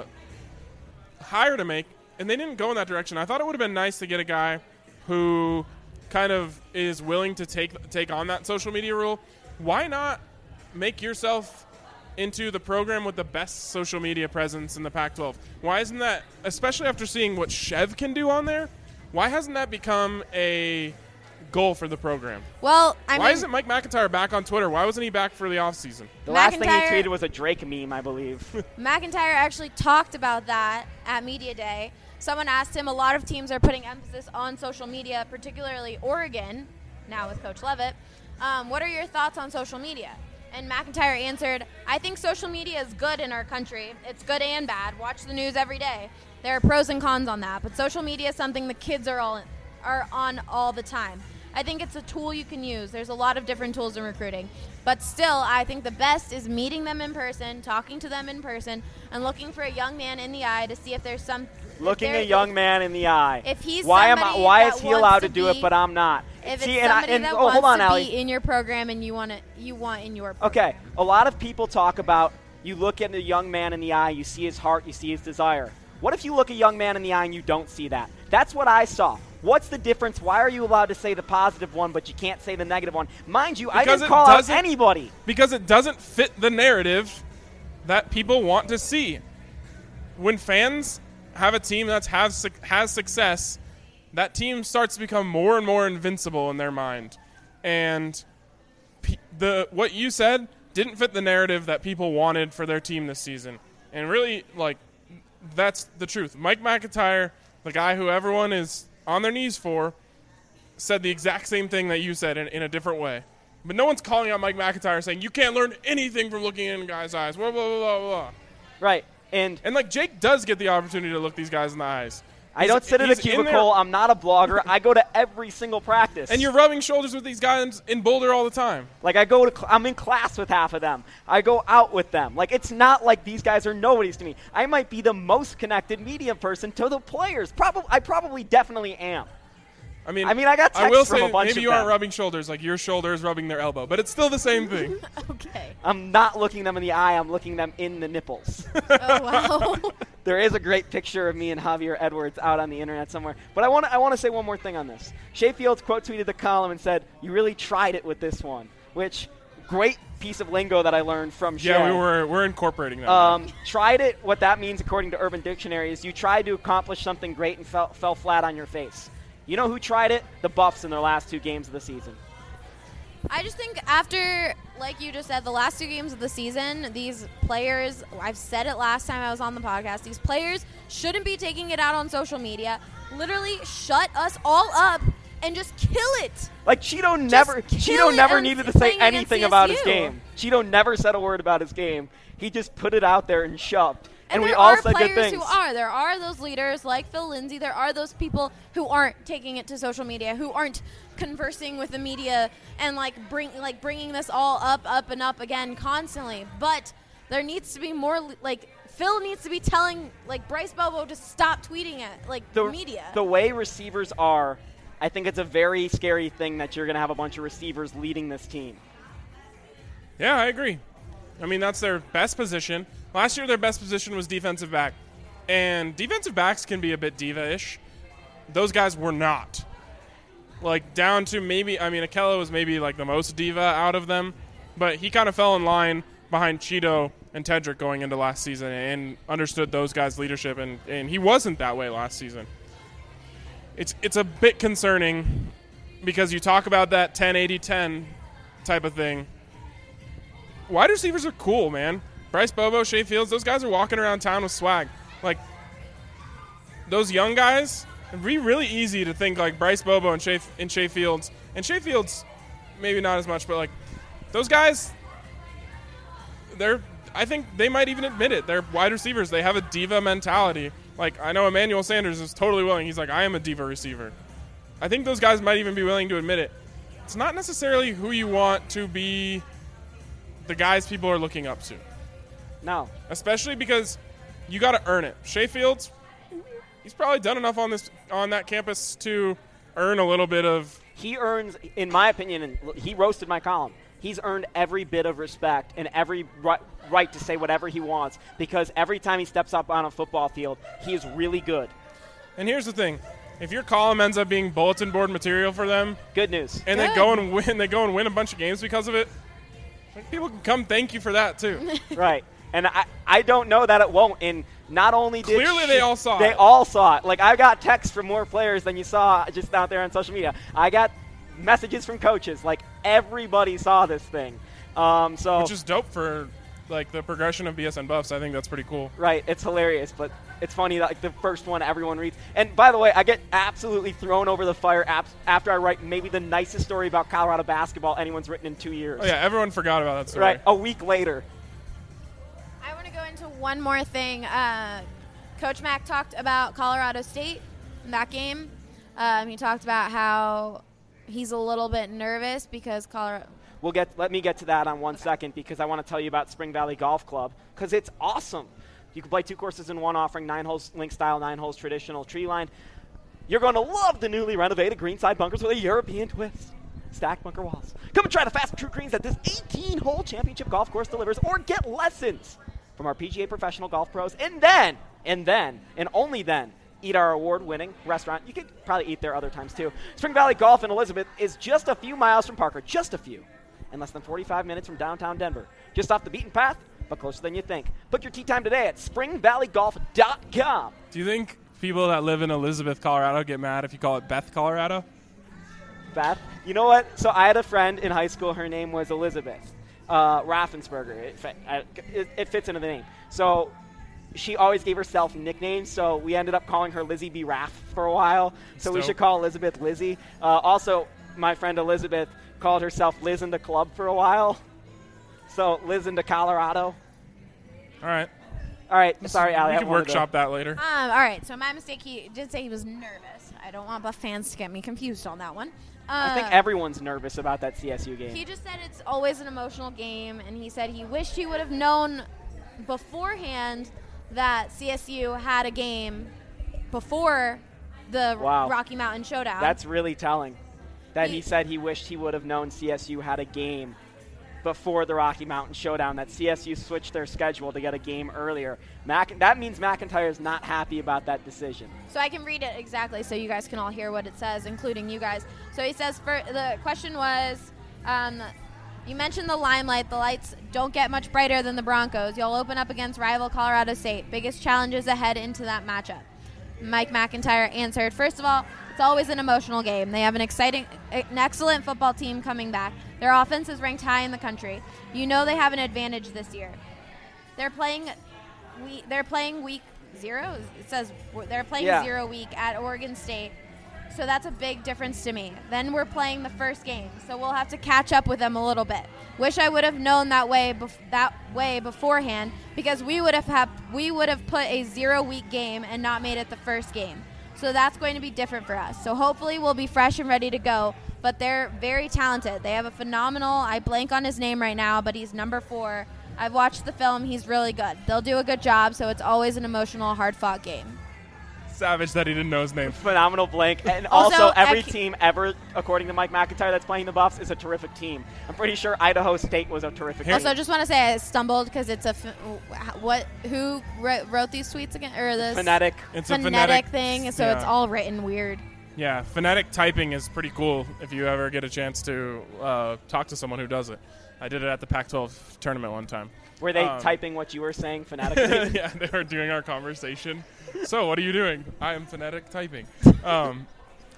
hire to make, and they didn't go in that direction. I thought it would have been nice to get a guy who kind of is willing to take take on that social media rule. Why not make yourself into the program with the best social media presence in the Pac twelve? Why isn't that, especially after seeing what Chev can do on there, why hasn't that become a goal for the program?
Well, I
Why
mean,
isn't Mike McIntyre back on Twitter? Why wasn't he back for the offseason?
the last thing he
McIntyre-
tweeted was a Drake meme, I believe.
McIntyre actually talked about that at Media Day. Someone asked him, a lot of teams are putting emphasis on social media, particularly Oregon, now with Coach Leavitt. Um, what are your thoughts on social media? And McIntyre answered, I think social media is good in our country. It's good and bad. Watch the news every day. There are pros and cons on that, but social media is something the kids are all are on all the time. I think it's a tool you can use. There's a lot of different tools in recruiting. But still, I think the best is meeting them in person, talking to them in person, and looking for a young man in the eye to see if there's some... if
Looking a
there's-
young man in the eye.
If he's
why am I?
somebody
Why
that
is he
wants
allowed
to
to do it,
be-
but I'm not?
If
See,
it's
and I,
somebody
and,
that
oh,
wants
hold on,
to
Allie.
be in your program and you want to, you want in your program.
Okay, a lot of people talk about you look at a young man in the eye, you see his heart, you see his desire. What if you look a young man in the eye and you don't see that? That's what I saw. What's the difference? Why are you allowed to say the positive one, but you can't say the negative one? Mind you, I
Because
didn't
it
call out
doesn't-
anybody.
Because it doesn't fit the narrative that people want to see. When fans have a team that has, suc- has success, that team starts to become more and more invincible in their mind. And p- the what you said didn't fit the narrative that people wanted for their team this season. And really, like, that's the truth. Mike McIntyre, the guy who everyone is on their knees for, said the exact same thing that you said in, in a different way. But no one's calling out Mike McIntyre saying, you can't learn anything from looking in a guy's eyes, blah, blah, blah, blah, blah.
Right. And,
and, like, Jake does get the opportunity to look these guys in the eyes.
I
He's,
don't sit in a
in
cubicle. I'm not a blogger. I go to every single practice.
And you're rubbing shoulders with these guys in Boulder all the time.
Like, I go to, cl- I'm in class with half of them. I go out with them. Like, it's not like these guys are nobodies to me. I might be the most connected media person to the players. Probably, I probably definitely am.
I mean,
I mean, I got texts
I will
from
say
a bunch
maybe
of
you
them.
aren't rubbing shoulders, like your shoulder is rubbing their elbow, but it's still the same thing.
Okay.
I'm not looking them in the eye. I'm looking them in the nipples.
Oh, wow.
There is a great picture of me and Javier Edwards out on the internet somewhere. But I want to I want to say one more thing on this. Shea Fields quote tweeted the column and said, "You really tried it with this one," which great piece of lingo that I learned from Shea.
Yeah, we were we're incorporating that.
Um, tried it. What that means, according to Urban Dictionary, is you tried to accomplish something great and fell, fell flat on your face. You know who tried it? The Buffs in their last two games of the season.
I just think after, like you just said, the last two games of the season, these players, I've said it last time I was on the podcast, these players shouldn't be taking it out on social media. Literally shut us all up and just kill it.
Like, Cheeto never
kill
Cheeto
it
never
and
needed to say
playing against
anything about his
C S U.
game. Cheeto never said a word about his game. He just put it out there and shoved.
And,
And, we
there
all
are
said good
players
things.
who are. There are those leaders like Phil Lindsay. There are those people who aren't taking it to social media, who aren't conversing with the media and like bring like bringing this all up, up and up again constantly. But there needs to be more. Like Phil needs to be telling like Bryce Bobo to stop tweeting at like
the
the media.
The way receivers are, I think it's a very scary thing that you're going to have a bunch of receivers leading this team.
Yeah, I agree. I mean, that's their best position. Last year, their best position was defensive back. And defensive backs can be a bit diva-ish. Those guys were not. Like, down to maybe, I mean, Akella was maybe, like, the most diva out of them. But he kind of fell in line behind Cheeto and Tedrick going into last season and understood those guys' leadership. And, and he wasn't that way last season. It's, it's a bit concerning because you talk about that ten eighty ten type of thing. Wide receivers are cool, man. Bryce Bobo, Shea Fields, those guys are walking around town with swag. Like, those young guys, it'd be really easy to think like Bryce Bobo and Shea, and Shea Fields. And Shea Fields, maybe not as much, but like, those guys, they're, I think they might even admit it. They're wide receivers. They have a diva mentality. Like, I know Emmanuel Sanders is totally willing. He's like, I am a diva receiver. I think those guys might even be willing to admit it. It's not necessarily who you want to be the guys people are looking up to.
No.
Especially because you got to earn it. Shea Fields, he's probably done enough on this on that campus to earn a little bit of.
He earns, in my opinion, and he roasted my column, he's earned every bit of respect and every right, right to say whatever he wants because every time he steps up on a football field, he is really good.
And here's the thing. If your column ends up being bulletin board material for them,
good news.
And
Good.
they go and win, they go and win a bunch of games because of it, people can come thank you for that too.
Right. And I, I don't know that it won't. And not only did
Clearly
Shea,
they all saw
they
it.
all saw it. Like, I got texts from more players than you saw just out there on social media. I got messages from coaches. Like, everybody saw this thing. Um, so
Which is dope for like the progression of B S N Buffs. I think that's pretty cool.
Right. It's hilarious, but it's funny that like the first one everyone reads. And by the way, I get absolutely thrown over the fire ap- after I write maybe the nicest story about Colorado basketball anyone's written in two years.
Oh yeah, everyone forgot about that story.
Right. A week later.
I want to go into one more thing. Uh, Coach Mack talked about Colorado State in that game. Um, he talked about how he's a little bit nervous because Colorado.
We'll get. Let me get to that on one second because I want to tell you about Spring Valley Golf Club because it's awesome. You can play two courses in one, offering nine holes link style, nine holes traditional tree line. You're going to love the newly renovated greenside bunkers with a European twist. Stacked bunker walls. Come and try the fast and true greens that this eighteen-hole championship golf course delivers, or get lessons from our P G A professional golf pros, and then, and then, and only then, eat our award-winning restaurant. You could probably eat there other times too. Spring Valley Golf in Elizabeth is just a few miles from Parker, just a few, and less than forty-five minutes from downtown Denver. Just off the beaten path, but closer than you think. Book your tee time today at spring valley golf dot com.
Do you think people that live in Elizabeth, Colorado get mad if you call it Beth, Colorado?
Beth. You know what? So I had a friend in high school. Her name was Elizabeth uh, Raffensperger. It, fit, it, it fits into the name. So she always gave herself nicknames. So we ended up calling her Lizzie B. Raff for a while. So
Dope.
we should call Elizabeth Lizzie. Uh, also, my friend Elizabeth called herself Liz in the Club for a while. So Liz into Colorado.
All right.
All right. Sorry, Allie.
We
I
can
wanted
workshop
to-
that later.
Um, all right, so my mistake, he did say he was nervous. I don't want Buff fans to get me confused on that one. Uh,
I think everyone's nervous about that C S U game.
He just said it's always an emotional game, and he said he wished he would have known beforehand that C S U had a game before the
Wow.
Rocky Mountain Showdown.
That's really telling. That he
He-
said he wished he would have known C S U had a game before the Rocky Mountain Showdown, that C S U switched their schedule to get a game earlier. Mac- that means McIntyre is not happy about that decision.
So I can read it exactly so you guys can all hear what it says, including you guys. So he says, for, the question was, um, you mentioned the limelight. The lights don't get much brighter than the Broncos. You'll open up against rival Colorado State. Biggest challenges ahead into that matchup. Mike McIntyre answered, first of all, it's always an emotional game. They have an exciting, an excellent football team coming back. Their offense is ranked high in the country. You know they have an advantage this year. They're playing, we, they're playing week zero. It says they're playing
Yeah.
zero week at Oregon State. So that's a big difference to me. Then we're playing the first game, so we'll have to catch up with them a little bit. Wish I would have known that way bef- that way beforehand, because we would have had, we would have put a zero week game and not made it the first game. So that's going to be different for us. So hopefully we'll be fresh and ready to go. But they're very talented. They have a phenomenal, I blank on his name right now, but he's number four. I've watched the film. He's really good. They'll do a good job, so it's always an emotional, hard-fought game.
Savage that he didn't know his name.
Phenomenal blank. And
Also,
also, every
I ca-
team ever, according to Mike McIntyre, that's playing the Buffs is a terrific team. I'm pretty sure Idaho State was a terrific
Here-
team.
Also, I just want to say I stumbled because it's a f- what? Who wrote, wrote these tweets again? Or this
Phonetic.
It's a
phonetic,
phonetic
thing? So
yeah.
it's all written weird.
Yeah, phonetic typing is pretty cool if you ever get a chance to uh, talk to someone who does it. I did it at the Pac twelve tournament one time.
Were they
Um,
typing what you were saying phonetically?
Yeah, they were doing our conversation. So, what are you doing? I am phonetic typing. Um,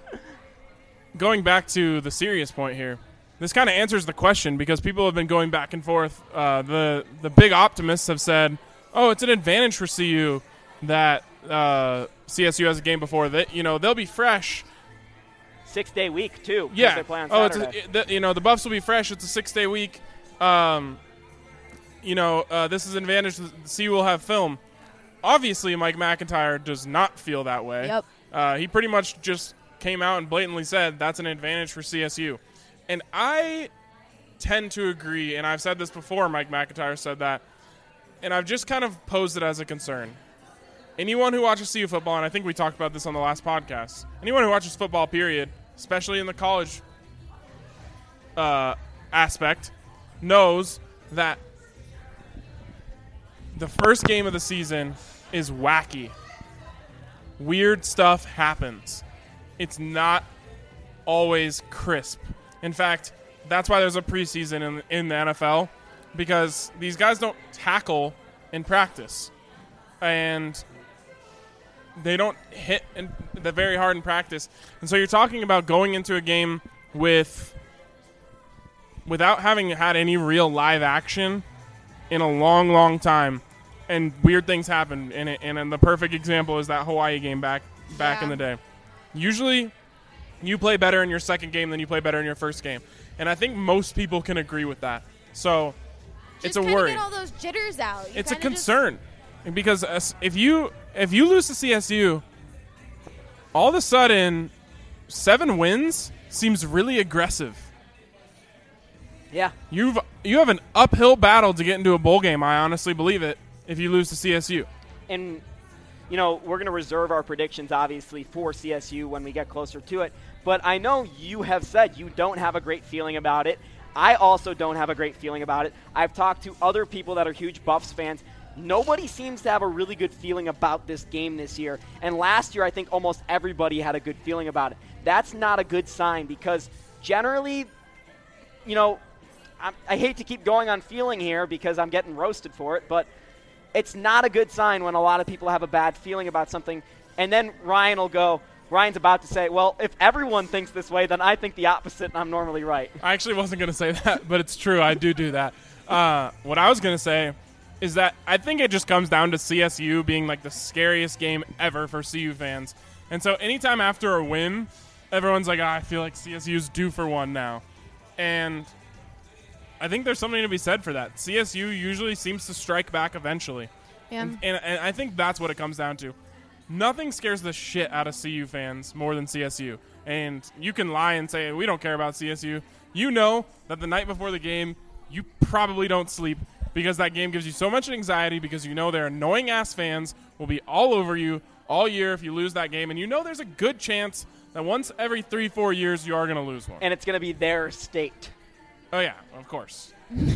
going back to the serious point here, this kind of answers the question because people have been going back and forth. Uh, the the big optimists have said, "Oh, it's an advantage for C U that uh, C S U has a game before that. You know, they'll be fresh."
Six day week too. 'cause
Yeah.
They play on
oh, it's
Saturday.
a, it, the, you know the Buffs will be fresh. It's a six day week. Um, you know, uh, this is an advantage. The C U will have film. Obviously, Mike McIntyre does not feel that way.
Yep.
Uh, he pretty much just came out and blatantly said that's an advantage for C S U. And I tend to agree, and I've said this before, Mike McIntyre said that, and I've just kind of posed it as a concern. Anyone who watches C U football, and I think we talked about this on the last podcast, anyone who watches football, period, especially in the college uh, aspect, knows that the first game of the season is wacky. Weird stuff happens. It's not always crisp. In fact, that's why there's a preseason in, in the N F L, because these guys don't tackle in practice. And they don't hit in, the very hard in practice. And so you're talking about going into a game with without having had any real live action in a long, long time. And weird things happen in it. And, and the perfect example is that Hawaii game back back
Yeah.
in the day. Usually, you play better in your second game than you play better in your first game. And I think most people can agree with that. So,
Just
it's a
kinda
worry.
Get all those jitters out. You
It's a
kinda just-
concern. Because as- if you if you lose to C S U, all of a sudden, seven wins seems really aggressive.
Yeah.
You've you have an uphill battle to get into a bowl game. I honestly believe it. If you lose to C S U,
And, you know, we're going to reserve our predictions, obviously, for C S U when we get closer to it. But I know you have said you don't have a great feeling about it. I also don't have a great feeling about it. I've talked to other people that are huge Buffs fans. Nobody seems to have a really good feeling about this game this year. And last year, I think almost everybody had a good feeling about it. That's not a good sign because generally, you know, I, I hate to keep going on feeling here because I'm getting roasted for it, but it's not a good sign when a lot of people have a bad feeling about something. And then Ryan will go, Ryan's about to say, well, if everyone thinks this way, then I think the opposite, and I'm normally right.
I actually wasn't going to say that, but it's true. I do do that. Uh, what I was going to say is that I think it just comes down to C S U being like the scariest game ever for C U fans. And so anytime after a win, everyone's like, oh, I feel like C S U's due for one now. And I think there's something to be said for that. C S U usually seems to strike back eventually.
Yeah.
And, and, and I think that's what it comes down to. Nothing scares the shit out of C U fans more than C S U. And you can lie and say, we don't care about C S U. You know that the night before the game, you probably don't sleep because that game gives you so much anxiety because you know their annoying-ass fans will be all over you all year if you lose that game. And you know there's a good chance that once every three, four years you are going to lose one.
And it's going to be their state.
Oh, yeah, of course.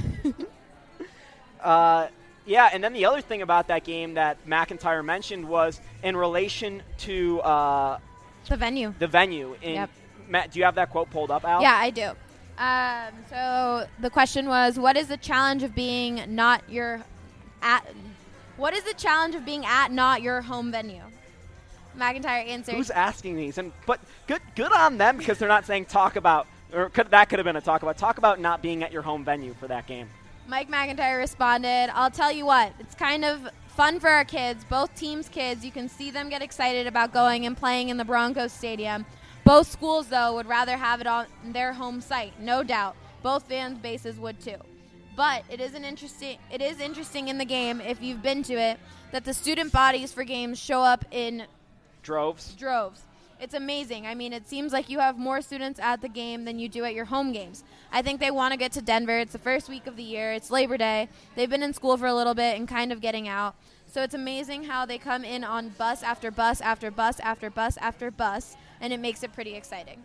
uh, yeah, and then the other thing about that game that McIntyre mentioned was in relation to uh,
the venue.
The venue. In,
yep.
Matt, do you have that quote pulled up, Al?
Yeah, I do. Um, so the question was, what is the challenge of being not your at? What is the challenge of being at not your home venue? McIntyre answered.
Who's asking these? And but good, good on them because they're not saying talk about, or could, that could have been a talk about. Talk about not being at your home venue for that game.
Mike McIntyre responded, I'll tell you what, it's kind of fun for our kids, both teams' kids. You can see them get excited about going and playing in the Broncos Stadium. Both schools, though, would rather have it on their home site, no doubt. Both fan bases would, too. But it is, an interesting, it is interesting in the game, if you've been to it, that the student bodies for games show up in
droves.
Droves. It's amazing. I mean, it seems like you have more students at the game than you do at your home games. I think they want to get to Denver. It's the first week of the year. It's Labor Day. They've been in school for a little bit and kind of getting out. So it's amazing how they come in on bus after bus after bus after bus after bus, and it makes it pretty exciting.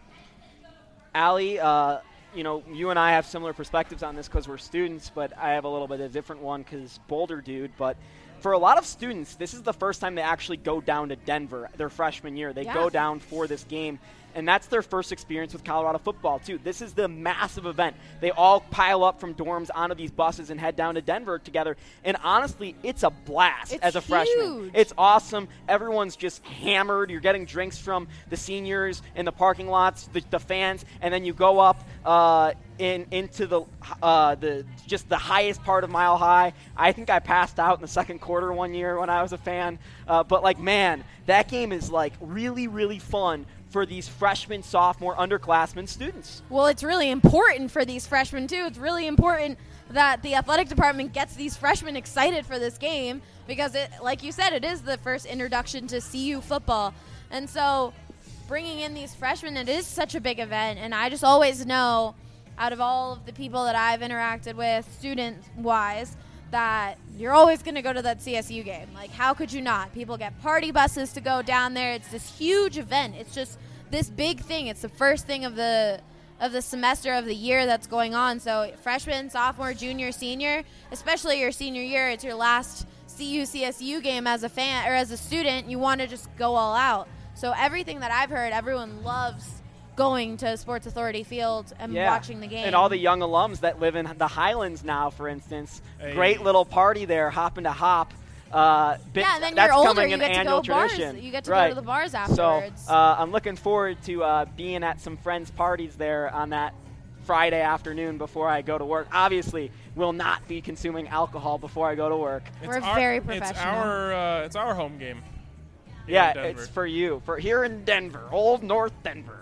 Allie, uh, you know, you and I have similar perspectives on this because we're students, but I have a little bit of a different one because Boulder dude. But for a lot of students, this is the first time they actually go down to Denver their freshman year. They
yeah.
go down for this game, and that's their first experience with Colorado football, too. This is the massive event. They all pile up from dorms onto these buses and head down to Denver together, and honestly, it's a blast
it's
as a
huge.
freshman. It's awesome. Everyone's just hammered. You're getting drinks from the seniors in the parking lots, the, the fans, and then you go up uh, in into the uh, the just the highest part of Mile High. I think I passed out in the second quarter one year when I was a fan. Uh, but, like, man, that game is, like, really, really fun for these freshmen, sophomore, underclassmen students.
Well, it's really important for these freshmen, too. It's really important that the athletic department gets these freshmen excited for this game because, it, like you said, it is the first introduction to C U football. And so bringing in these freshmen, it is such a big event. And I just always know, out of all of the people that I've interacted with, student-wise, that you're always going to go to that C S U game. Like, how could you not? People get party buses to go down there. It's this huge event. It's just this big thing. It's the first thing of the of the semester of the year that's going on. So freshman, sophomore, junior, senior, especially your senior year, it's your last C U C S U game as a fan or as a student. You want to just go all out. So everything that I've heard, everyone loves going to Sports Authority Field and
yeah.
watching the game.
And all the young alums that live in the Highlands now, for instance.
Hey.
Great little party there, hopping to hop. Uh,
yeah, and then
that's
you're older,
coming
you
an
get to
annual
go bars.
tradition.
You get to
right.
go to the bars afterwards.
So uh, I'm looking forward to uh, being at some friends' parties there on that Friday afternoon before I go to work. Obviously, will not be consuming alcohol before I go to work.
It's
We're
our,
very professional.
It's our, uh, it's our home game.
Yeah, it's for you. For here in Denver, old North Denver.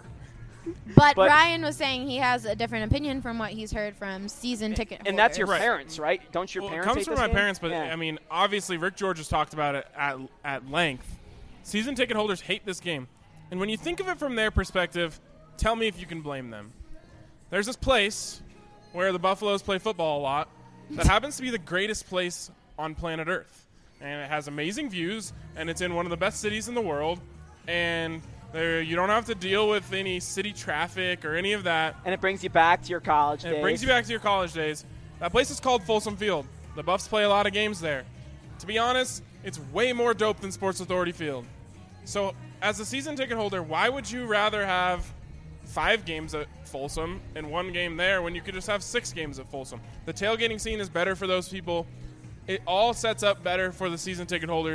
But,
But-
Ryan was saying he has a different opinion from what he's heard from season ticket holders.
And that's your
Right.
parents, right? Don't your
Well, it
parents
comes
hate
from
this
my
game?
parents, but
Yeah.
I mean, obviously, Rick George has talked about it at at length. Season ticket holders hate this game, and when you think of it from their perspective, tell me if you can blame them. There's this place where the Buffaloes play football a lot that happens to be the greatest place on planet Earth, and it has amazing views, and it's in one of the best cities in the world, and there you don't have to deal with any city traffic or any of that.
And it brings you back to your college
And
days.
it brings you back to your college days. That place is called Folsom Field. The Buffs play a lot of games there. To be honest, it's way more dope than Sports Authority Field. So, as a season ticket holder, why would you rather have five games at Folsom and one game there when you could just have six games at Folsom? The tailgating scene is better for those people. It all sets up better for the season ticket holders.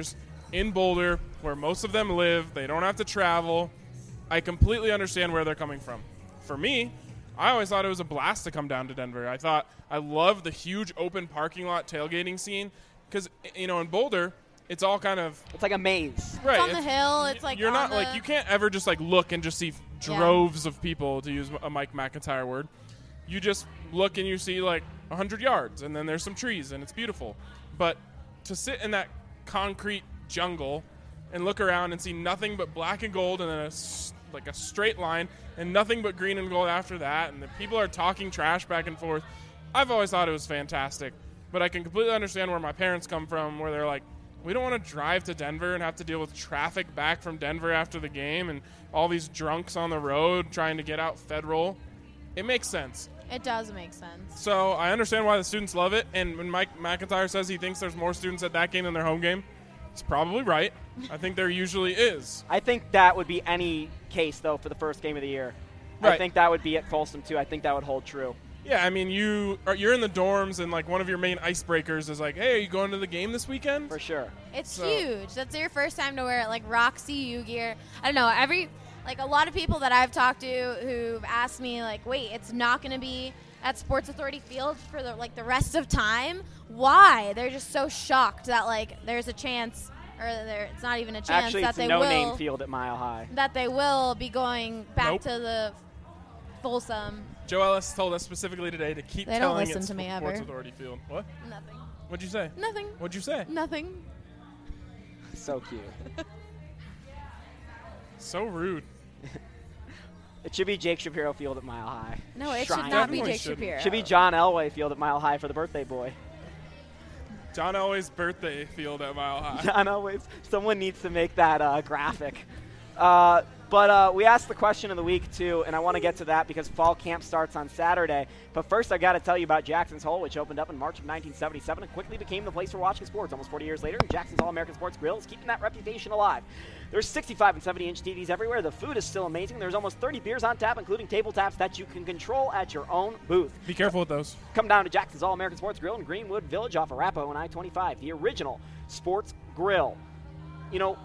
in Boulder, where most of them live. They don't have to travel. I completely understand where they're coming from. For me, I always thought it was a blast to come down to Denver. I thought I loved the huge open parking lot tailgating scene because, you know, in Boulder, it's all kind of
It's like a maze.
right.
It's on the hill. It's like
you're
on
not
the
like you can't ever just like look and just see droves of people, to use a Mike McIntyre word. You just look and you see like one hundred yards, and then there's some trees, and it's beautiful. But to sit in that concrete jungle and look around and see nothing but black and gold, and then a s like a straight line, and nothing but green and gold after that, and the people are talking trash back and forth. I've always thought it was fantastic, but I can completely understand where my parents come from, where they're like, we don't want to drive to Denver and have to deal with traffic back from Denver after the game and all these drunks on the road trying to get out Federal. It makes sense.
It does make sense.
So I understand why the students love it, and when Mike McIntyre says he thinks there's more students at that game than their home game, it's probably right. I think there usually is.
I think that would be any case, though, for the first game of the year.
Right.
I think that would be at Folsom, too. I think that would hold true.
Yeah, I mean, you are, you're in the dorms, and like one of your main icebreakers is like, hey, are you going to the game this weekend?
For sure.
It's
So-
huge. That's your first time to wear it, like Roxy U gear. I don't know. Every like a lot of people that I've talked to who've asked me like, wait, it's not going to be at Sports Authority Field for the like the rest of time. Why? They're just so shocked that like there's a chance, or there, it's not even a chance
Actually,
that
it's
they
a no-name
will
field at Mile High.
that they will be going back
Nope.
to the Folsom.
Joe Ellis told us specifically today to keep
They don't
telling
listen
it
to me
Sports
ever.
Authority Field. What?
Nothing.
What'd you say?
Nothing.
What'd you say?
Nothing.
So cute.
So rude.
It should be Jake Shapiro Field at Mile High.
No, it
Shrine.
should not be
Definitely
Jake
shouldn't.
Shapiro.
Should be John Elway Field at Mile High for the birthday boy.
John Elway's birthday field at Mile High.
John Elway's. Someone needs to make that uh, graphic. Uh, but uh, we asked the question of the week, too, and I want to get to that because fall camp starts on Saturday. But first, I got to tell you about Jackson's Hole, which opened up in March of nineteen seventy-seven and quickly became the place for watching sports. Almost forty years later, Jackson's All-American Sports Grill is keeping that reputation alive. There's sixty-five and seventy inch T Vs everywhere. The food is still amazing. There's almost thirty beers on tap, including table taps that you can control at your own booth.
Be careful with those.
Come down to Jackson's All-American Sports Grill in Greenwood Village off Arapahoe and I twenty-five, the original sports grill. You know,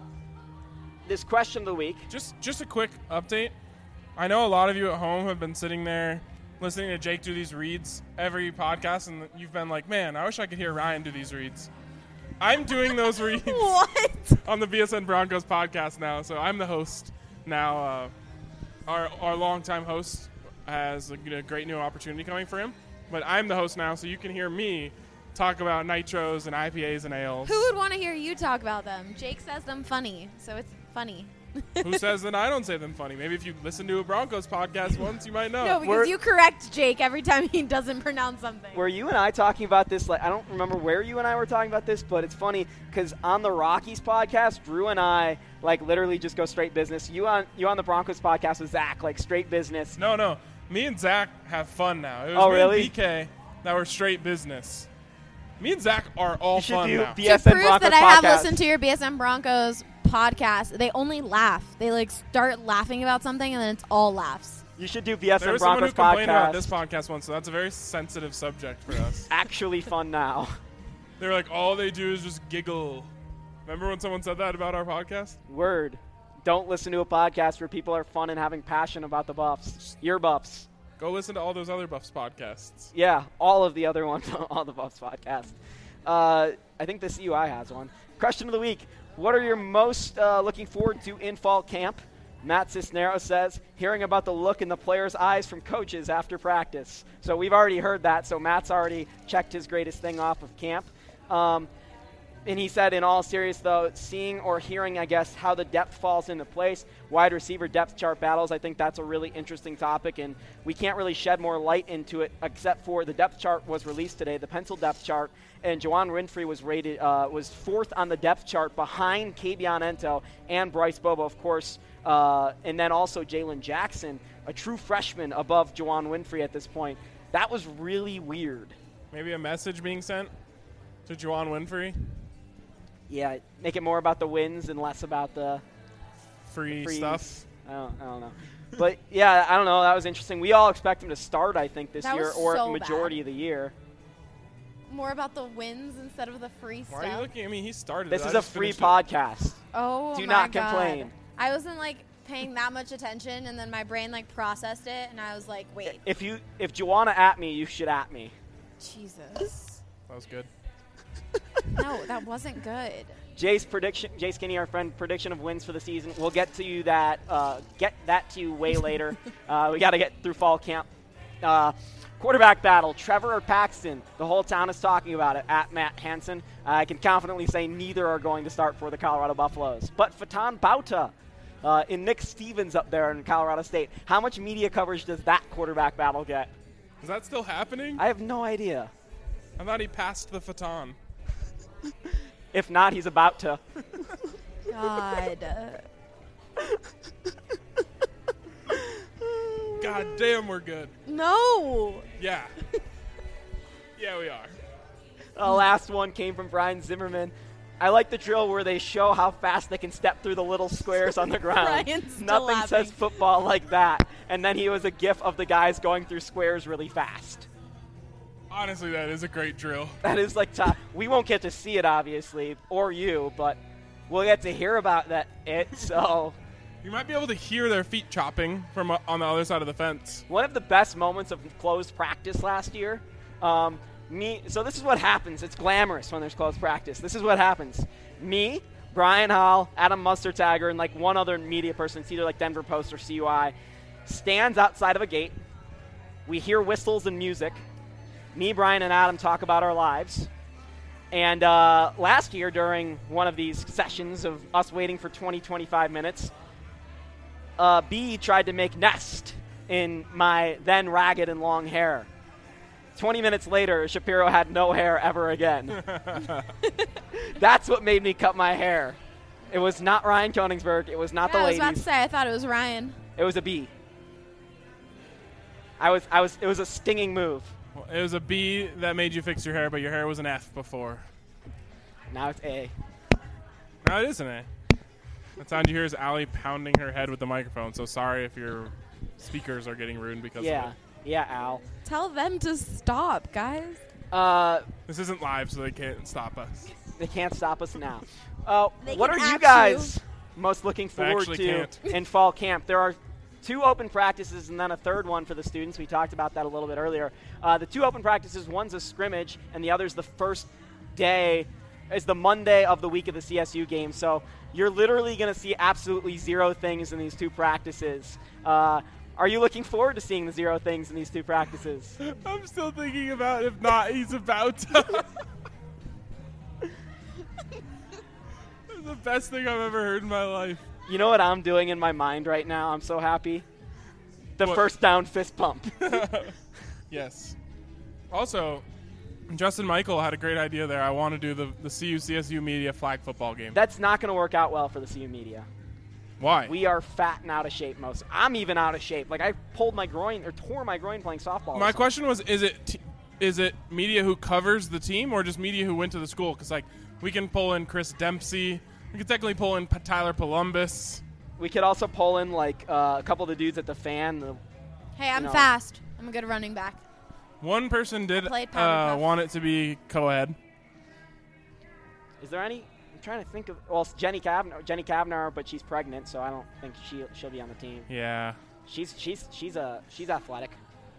this question of the week.
Just just a quick update. I know a lot of you at home have been sitting there listening to Jake do these reads every podcast, and you've been like, man, I wish I could hear Ryan do these reads. I'm doing those reads
What?
on the B S N Broncos podcast now, so I'm the host now. Uh, our our longtime host has a, you know, great new opportunity coming for him, but I'm the host now, so you can hear me talk about nitros and I P As and ales.
Who would want to hear you talk about them? Jake says them funny, so it's funny.
Who says that I don't say them funny? Maybe if you listen to a Broncos podcast once, you might know.
No, because
We're-
you correct Jake every time he doesn't pronounce something.
Were you and I talking about this? Like, I don't remember where you and I were talking about this, but it's funny because on the Rockies podcast, Drew and I like literally just go straight business. You on you on the Broncos podcast with Zach, like straight business.
No, no. Me and Zach have fun now. It was
Oh,
me
really?
and B K that were straight business. Me and Zach are all
You should
fun
do
now.
B-
to
B S N
prove
Broncos
that I have
podcast.
listened to your B S N Broncos podcast, they only laugh. They like start laughing about something, and then it's all laughs.
You should do B S
There
N
was someone who
Broncos
complained about
podcast.
this podcast once, so that's a very sensitive subject for us.
Actually fun now.
They were like, all they do is just giggle. Remember when someone said that about our podcast?
Word. Don't listen to a podcast where people are fun and having passion about the Buffs. Your Buffs.
Go listen to all those other Buffs podcasts.
Yeah, all of the other ones on the Buffs podcast. Uh, I think the C U I has one. Question of the week. What are you most uh, looking forward to in fall camp? Matt Cisneros says, hearing about the look in the players' eyes from coaches after practice. So we've already heard that, so Matt's already checked his greatest thing off of camp. Um, and he said, in all seriousness, though, seeing or hearing, I guess, how the depth falls into place, wide receiver depth chart battles, I think that's a really interesting topic, and we can't really shed more light into it except for the depth chart was released today, the pencil depth chart, and Juwan Winfrey was rated uh, was fourth on the depth chart behind Kabion Ento and Bryce Bobo, of course, uh, and then also Jalen Jackson, a true freshman above Juwan Winfrey at this point. That was really weird.
Maybe a message being sent to Juwan Winfrey.
Yeah, make it more about the wins and less about the
Free
freeze.
stuff.
I don't, I don't know. But, yeah, I don't know. That was interesting. We all expect him to start, I think, this
That
year
was
or
so
majority
bad.
of the year.
more about the wins instead of the free
Why
stuff.
are you looking at me? He started
This
it.
is
I
a
just
free
finished it.
podcast.
Oh
Do
my
not
God.
complain.
I wasn't like paying that much attention, and then my brain like processed it, and I was like, wait,
If you if Joanna at me, you should at me.
Jesus.
That was good.
No, that wasn't good.
Jay's prediction, Jay Skinny, our friend, prediction of wins for the season. We'll get to you that uh, get that to you way later. Uh, we got to get through fall camp. Uh, quarterback battle: Trevor or Paxton? The whole town is talking about it. At Matt Hansen, uh, I can confidently say neither are going to start for the Colorado Buffaloes. But Fatan Bauta uh, and Nick Stevens up there in Colorado State. How much media coverage does that quarterback battle get?
Is that still happening?
I have no idea.
I thought he passed the Fatan.
If not, he's about to.
God.
God damn, we're good.
No.
Yeah. Yeah, we are.
The last one came from Brian Zimmerman. I like the drill where they show how fast they can step through the little squares on the ground.
Brian's still
Nothing
laughing.
says football like that. And then he was a gif of the guys going through squares really fast.
Honestly, that is a great drill.
That is like top. We won't get to see it, obviously, or you, but we'll get to hear about that. It so.
You might be able to hear their feet chopping from uh, on the other side of the fence.
One of the best moments of closed practice last year. Um, me. So this is what happens. It's glamorous when there's closed practice. This is what happens. Me, Brian Hall, Adam Mustertagger, and like one other media person, it's either like Denver Post or C U I, stands outside of a gate. We hear whistles and music. Me, Brian, and Adam talk about our lives. And uh, last year, during one of these sessions of us waiting for twenty, twenty-five minutes, uh, B tried to make nest in my then ragged and long hair. twenty minutes later, Shapiro had no hair ever again. That's what made me cut my hair. It was not Ryan Koenigsberg. It was not
Yeah,
the
I was
ladies.
about to say, I thought it was Ryan.
It was a B. I was, I was, it was a stinging move.
Well, it was a B that made you fix your hair, but your hair was an F before.
Now it's A.
Now it is an A. That sound you hear is Allie pounding her head with the microphone, so sorry if your speakers are getting ruined because
Yeah,
of it.
yeah, Al.
Tell them to stop, guys.
Uh,
This isn't live, so they can't stop us.
they can't stop us now. Uh,
They
what are
can
you
at
guys most looking forward
actually
to
can't.
in fall camp? There are two open practices and then a third one for the students. We talked about that a little bit earlier. Uh, the two open practices, one's a scrimmage, and the other's the first day, is the Monday of the week of the C S U game. So you're literally going to see absolutely zero things in these two practices. Uh, are you looking forward to seeing the zero things in these two practices?
I'm still thinking about if not, he's about to. That's the best thing I've ever heard in my life.
You know what I'm doing in my mind right now? I'm so happy. The
What?
first down fist pump.
Yes. Also, Justin Michael had a great idea there. I want to do the, the C U C S U media flag football game.
That's not going to work out well for the C U media.
Why?
We are fat and out of shape most. I'm even out of shape. Like I pulled my groin or tore my groin playing softball.
My question was: Is it t- is it media who covers the team, or just media who went to the school? Because like we can pull in Chris Dempsey, we can technically pull in P- Tyler Columbus.
We could also pull in like uh, a couple of the dudes at the fan. The,
Hey, I'm
No.
fast. I'm a good running back.
One person did
I played
uh,
Powerpuff.
want it to be co-ed.
is there any? I'm trying to think of. Well, it's Jenny Kavner, Jenny Kavner, but she's pregnant, so I don't think she she'll be on the team.
Yeah.
She's she's she's a she's athletic.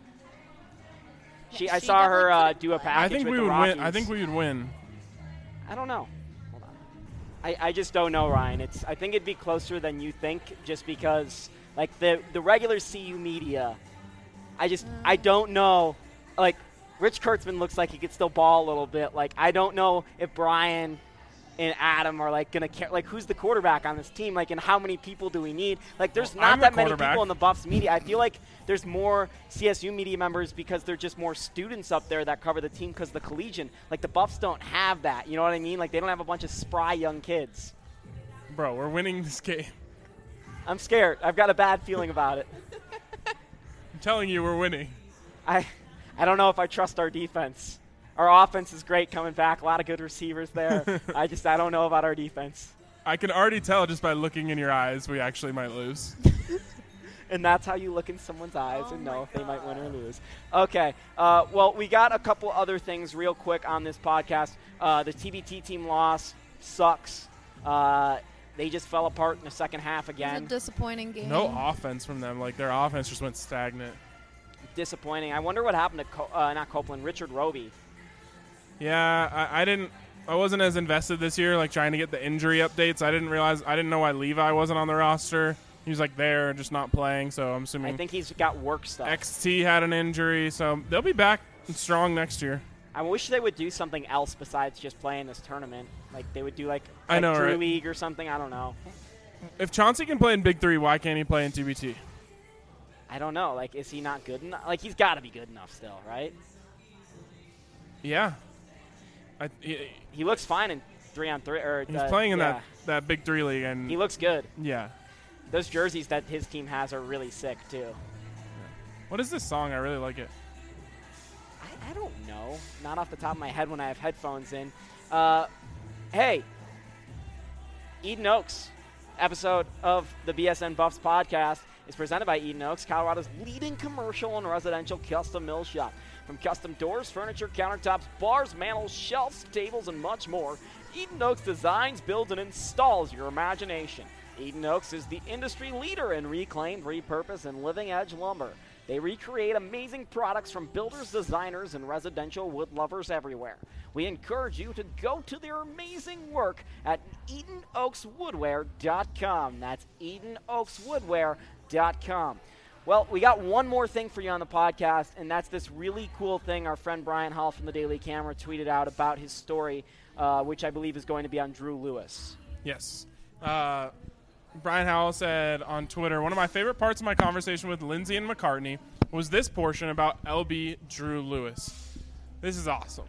She
Yeah,
I
she
saw her
definitely
uh,
could've
do a
played.
package
I think
with
we
the
would
Rockies.
win. I think we would win.
I don't know. Hold on. I, I just don't know, Ryan. It's I think it'd be closer than you think, just because like the the regular C U media. I just I don't know. Like Rich Kurtzman looks like he could still ball a little bit. Like I don't know if Brian and Adam are like gonna care. Like who's the quarterback on this team? Like and how many people do we need? Like there's
Well,
not
I'm the
that many
quarterback.
people in the Buffs media. I feel like there's more C S U media members because there're just more students up there that cover the team because the collegian. Like the Buffs don't have that. You know what I mean? Like they don't have a bunch of spry young kids.
Bro, we're winning this game.
I'm scared. I've got a bad feeling about it.
I'm telling you, we're winning.
I I don't know if I trust our defense. Our offense is great coming back. A lot of good receivers there. I just I don't know about our defense.
I can already tell just by looking in your eyes we actually might lose.
And that's how you look in someone's eyes
Oh
and know
my
if they might win or
God.
lose. Okay. Uh, well, we got a couple other things real quick on this podcast. Uh, the T B T team loss sucks. Uh, they just fell apart in the second half
It was
again.
a disappointing game.
No offense from them. Like, their offense just went stagnant.
Disappointing. I wonder what happened to Co- uh, not Copeland, Richard Roby.
Yeah, I, I didn't. I wasn't as invested this year, like trying to get the injury updates. I didn't realize. I didn't know why Levi wasn't on the roster. He was like there, just not playing. So I'm assuming
I think he's got work stuff.
X T had an injury, so they'll be back strong next year.
I wish they would do something else besides just playing this tournament. Like they would do like,
I
like
know,
Drew
right?
League or something. I don't know.
If Chauncey can play in Big Three, why can't he play in T B T?
I don't know. Like, is he not good enough? Like, he's got to be good enough still, right?
Yeah, I, he,
He looks fine in three on three. Or
he's
uh,
playing in
yeah.
that, that Big Three league, and
He looks good.
yeah.
Those jerseys that his team has are really sick too.
What is this song? I really like it.
I, I don't know. Not off the top of my head when I have headphones in. Uh, hey, Eden Oaks episode of the B S N Buffs podcast is presented by Eden Oaks, Colorado's leading commercial and residential custom mill shop. From custom doors, furniture, countertops, bars, mantles, shelves, tables, and much more, Eden Oaks designs, builds, and installs your imagination. Eden Oaks is the industry leader in reclaimed, repurposed, and living edge lumber. They recreate amazing products from builders, designers, and residential wood lovers everywhere. We encourage you to go to their amazing work at eden oaks woodware dot com. That's eden oaks woodware dot com. Well, we got one more thing for you on the podcast, and that's this really cool thing our friend Brian Hall from the Daily Camera tweeted out about his story, uh, which I believe is going to be on Drew Lewis.
Yes. Uh, Brian Howell said on Twitter, one of my favorite parts of my conversation with Lindsay and McCartney was this portion about L B Drew Lewis. This is awesome.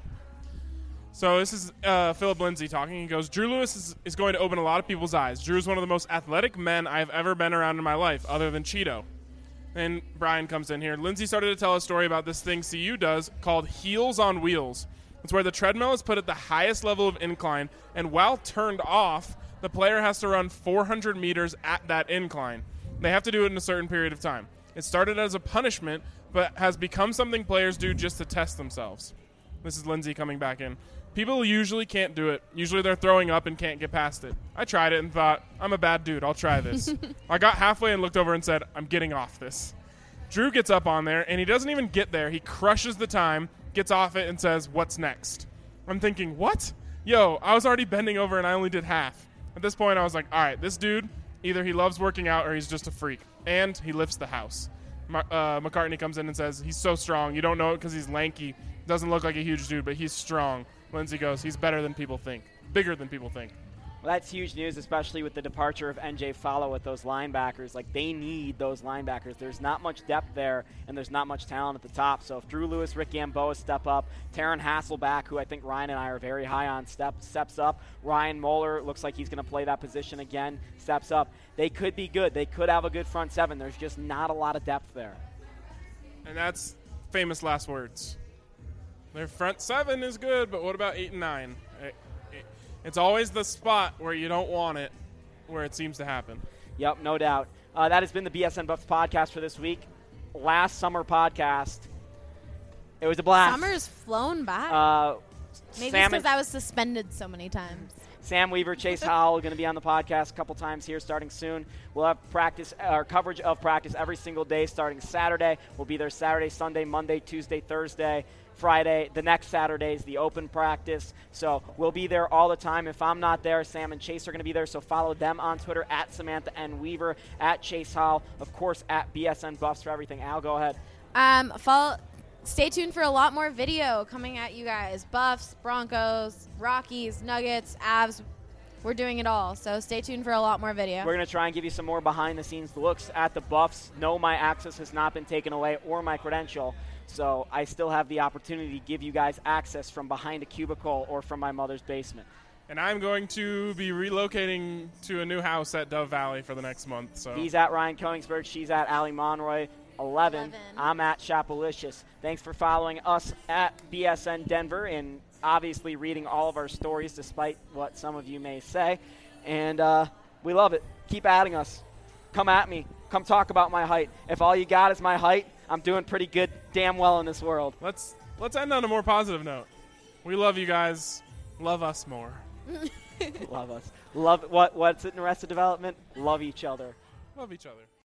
So this is uh, Philip Lindsay talking. He goes, Drew Lewis is, is going to open a lot of people's eyes. Drew is one of the most athletic men I've ever been around in my life, other than Cheeto. And Brian comes in here. Lindsay started to tell a story about this thing C U does called Heels on Wheels. It's where the treadmill is put at the highest level of incline, and while turned off, the player has to run four hundred meters at that incline. They have to do it in a certain period of time. It started as a punishment, but has become something players do just to test themselves. This is Lindsay coming back in. People usually can't do it. Usually they're throwing up and can't get past it. I tried it and thought, I'm a bad dude. I'll try this. I got halfway and looked over and said, I'm getting off this. Drew gets up on there, and he doesn't even get there. He crushes the time, gets off it, and says, what's next? I'm thinking, what? Yo, I was already bending over, and I only did half. At this point, I was like, all right, this dude, either he loves working out or he's just a freak. And he lifts the house. Mar- uh, McCartney comes in and says, he's so strong. You don't know it because he's lanky. Doesn't look like a huge dude, but he's strong. Lindsay goes, he's better than people think. Bigger than people think.
Well, that's huge news, especially with the departure of N J Follow with those linebackers. Like, they need those linebackers. There's not much depth there, and there's not much talent at the top. So if Drew Lewis, Rick Gamboa step up, Taryn Hasselback, who I think Ryan and I are very high on, step, steps up. Ryan Moeller looks like he's going to play that position again, steps up. They could be good. They could have a good front seven. There's just not a lot of depth there.
And that's famous last words. Their front seven is good, but what about eight and nine? It, it, it's always the spot where you don't want it, where it seems to happen.
Yep, no doubt. Uh, that has been the B S N Buffs podcast for this week. Last summer podcast. It was a blast.
Summer's flown by.
Uh,
Maybe
Sam
it's because
and-
I was suspended so many times.
Sam Weaver, Chase Howell going to be on the podcast a couple times here starting soon. We'll have practice or coverage of practice every single day starting Saturday. We'll be there Saturday, Sunday, Monday, Tuesday, Thursday, Friday. The next Saturday is the open practice. So we'll be there all the time. If I'm not there, Sam and Chase are going to be there. So follow them on Twitter at Samantha N. Weaver, at Chase Howell, of course, at B S N Buffs for everything. Al, go ahead.
Um, follow. Stay tuned for a lot more video coming at you guys. Buffs, Broncos, Rockies, Nuggets, Avs. We're doing it all. So stay tuned for a lot more video.
We're going to try and give you some more behind-the-scenes looks at the Buffs. No, my access has not been taken away or my credential. So I still have the opportunity to give you guys access from behind a cubicle or from my mother's basement.
And I'm going to be relocating to a new house at Dove Valley for the next month. So
He's at Ryan Koenigsberg. She's at Allie Monroy. eleven.
eleven.
I'm at Chapelicious. Thanks for following us at B S N Denver and obviously reading all of our stories despite what some of you may say. And uh, we love it. Keep adding us. Come at me. come talk about my height. If all you got is my height, I'm doing pretty good, damn well in this world.
Let's let's end on a more positive note. We love you guys. Love us more.
Love us. Love what? What's it in Arrested Development? Love each other.
Love each other.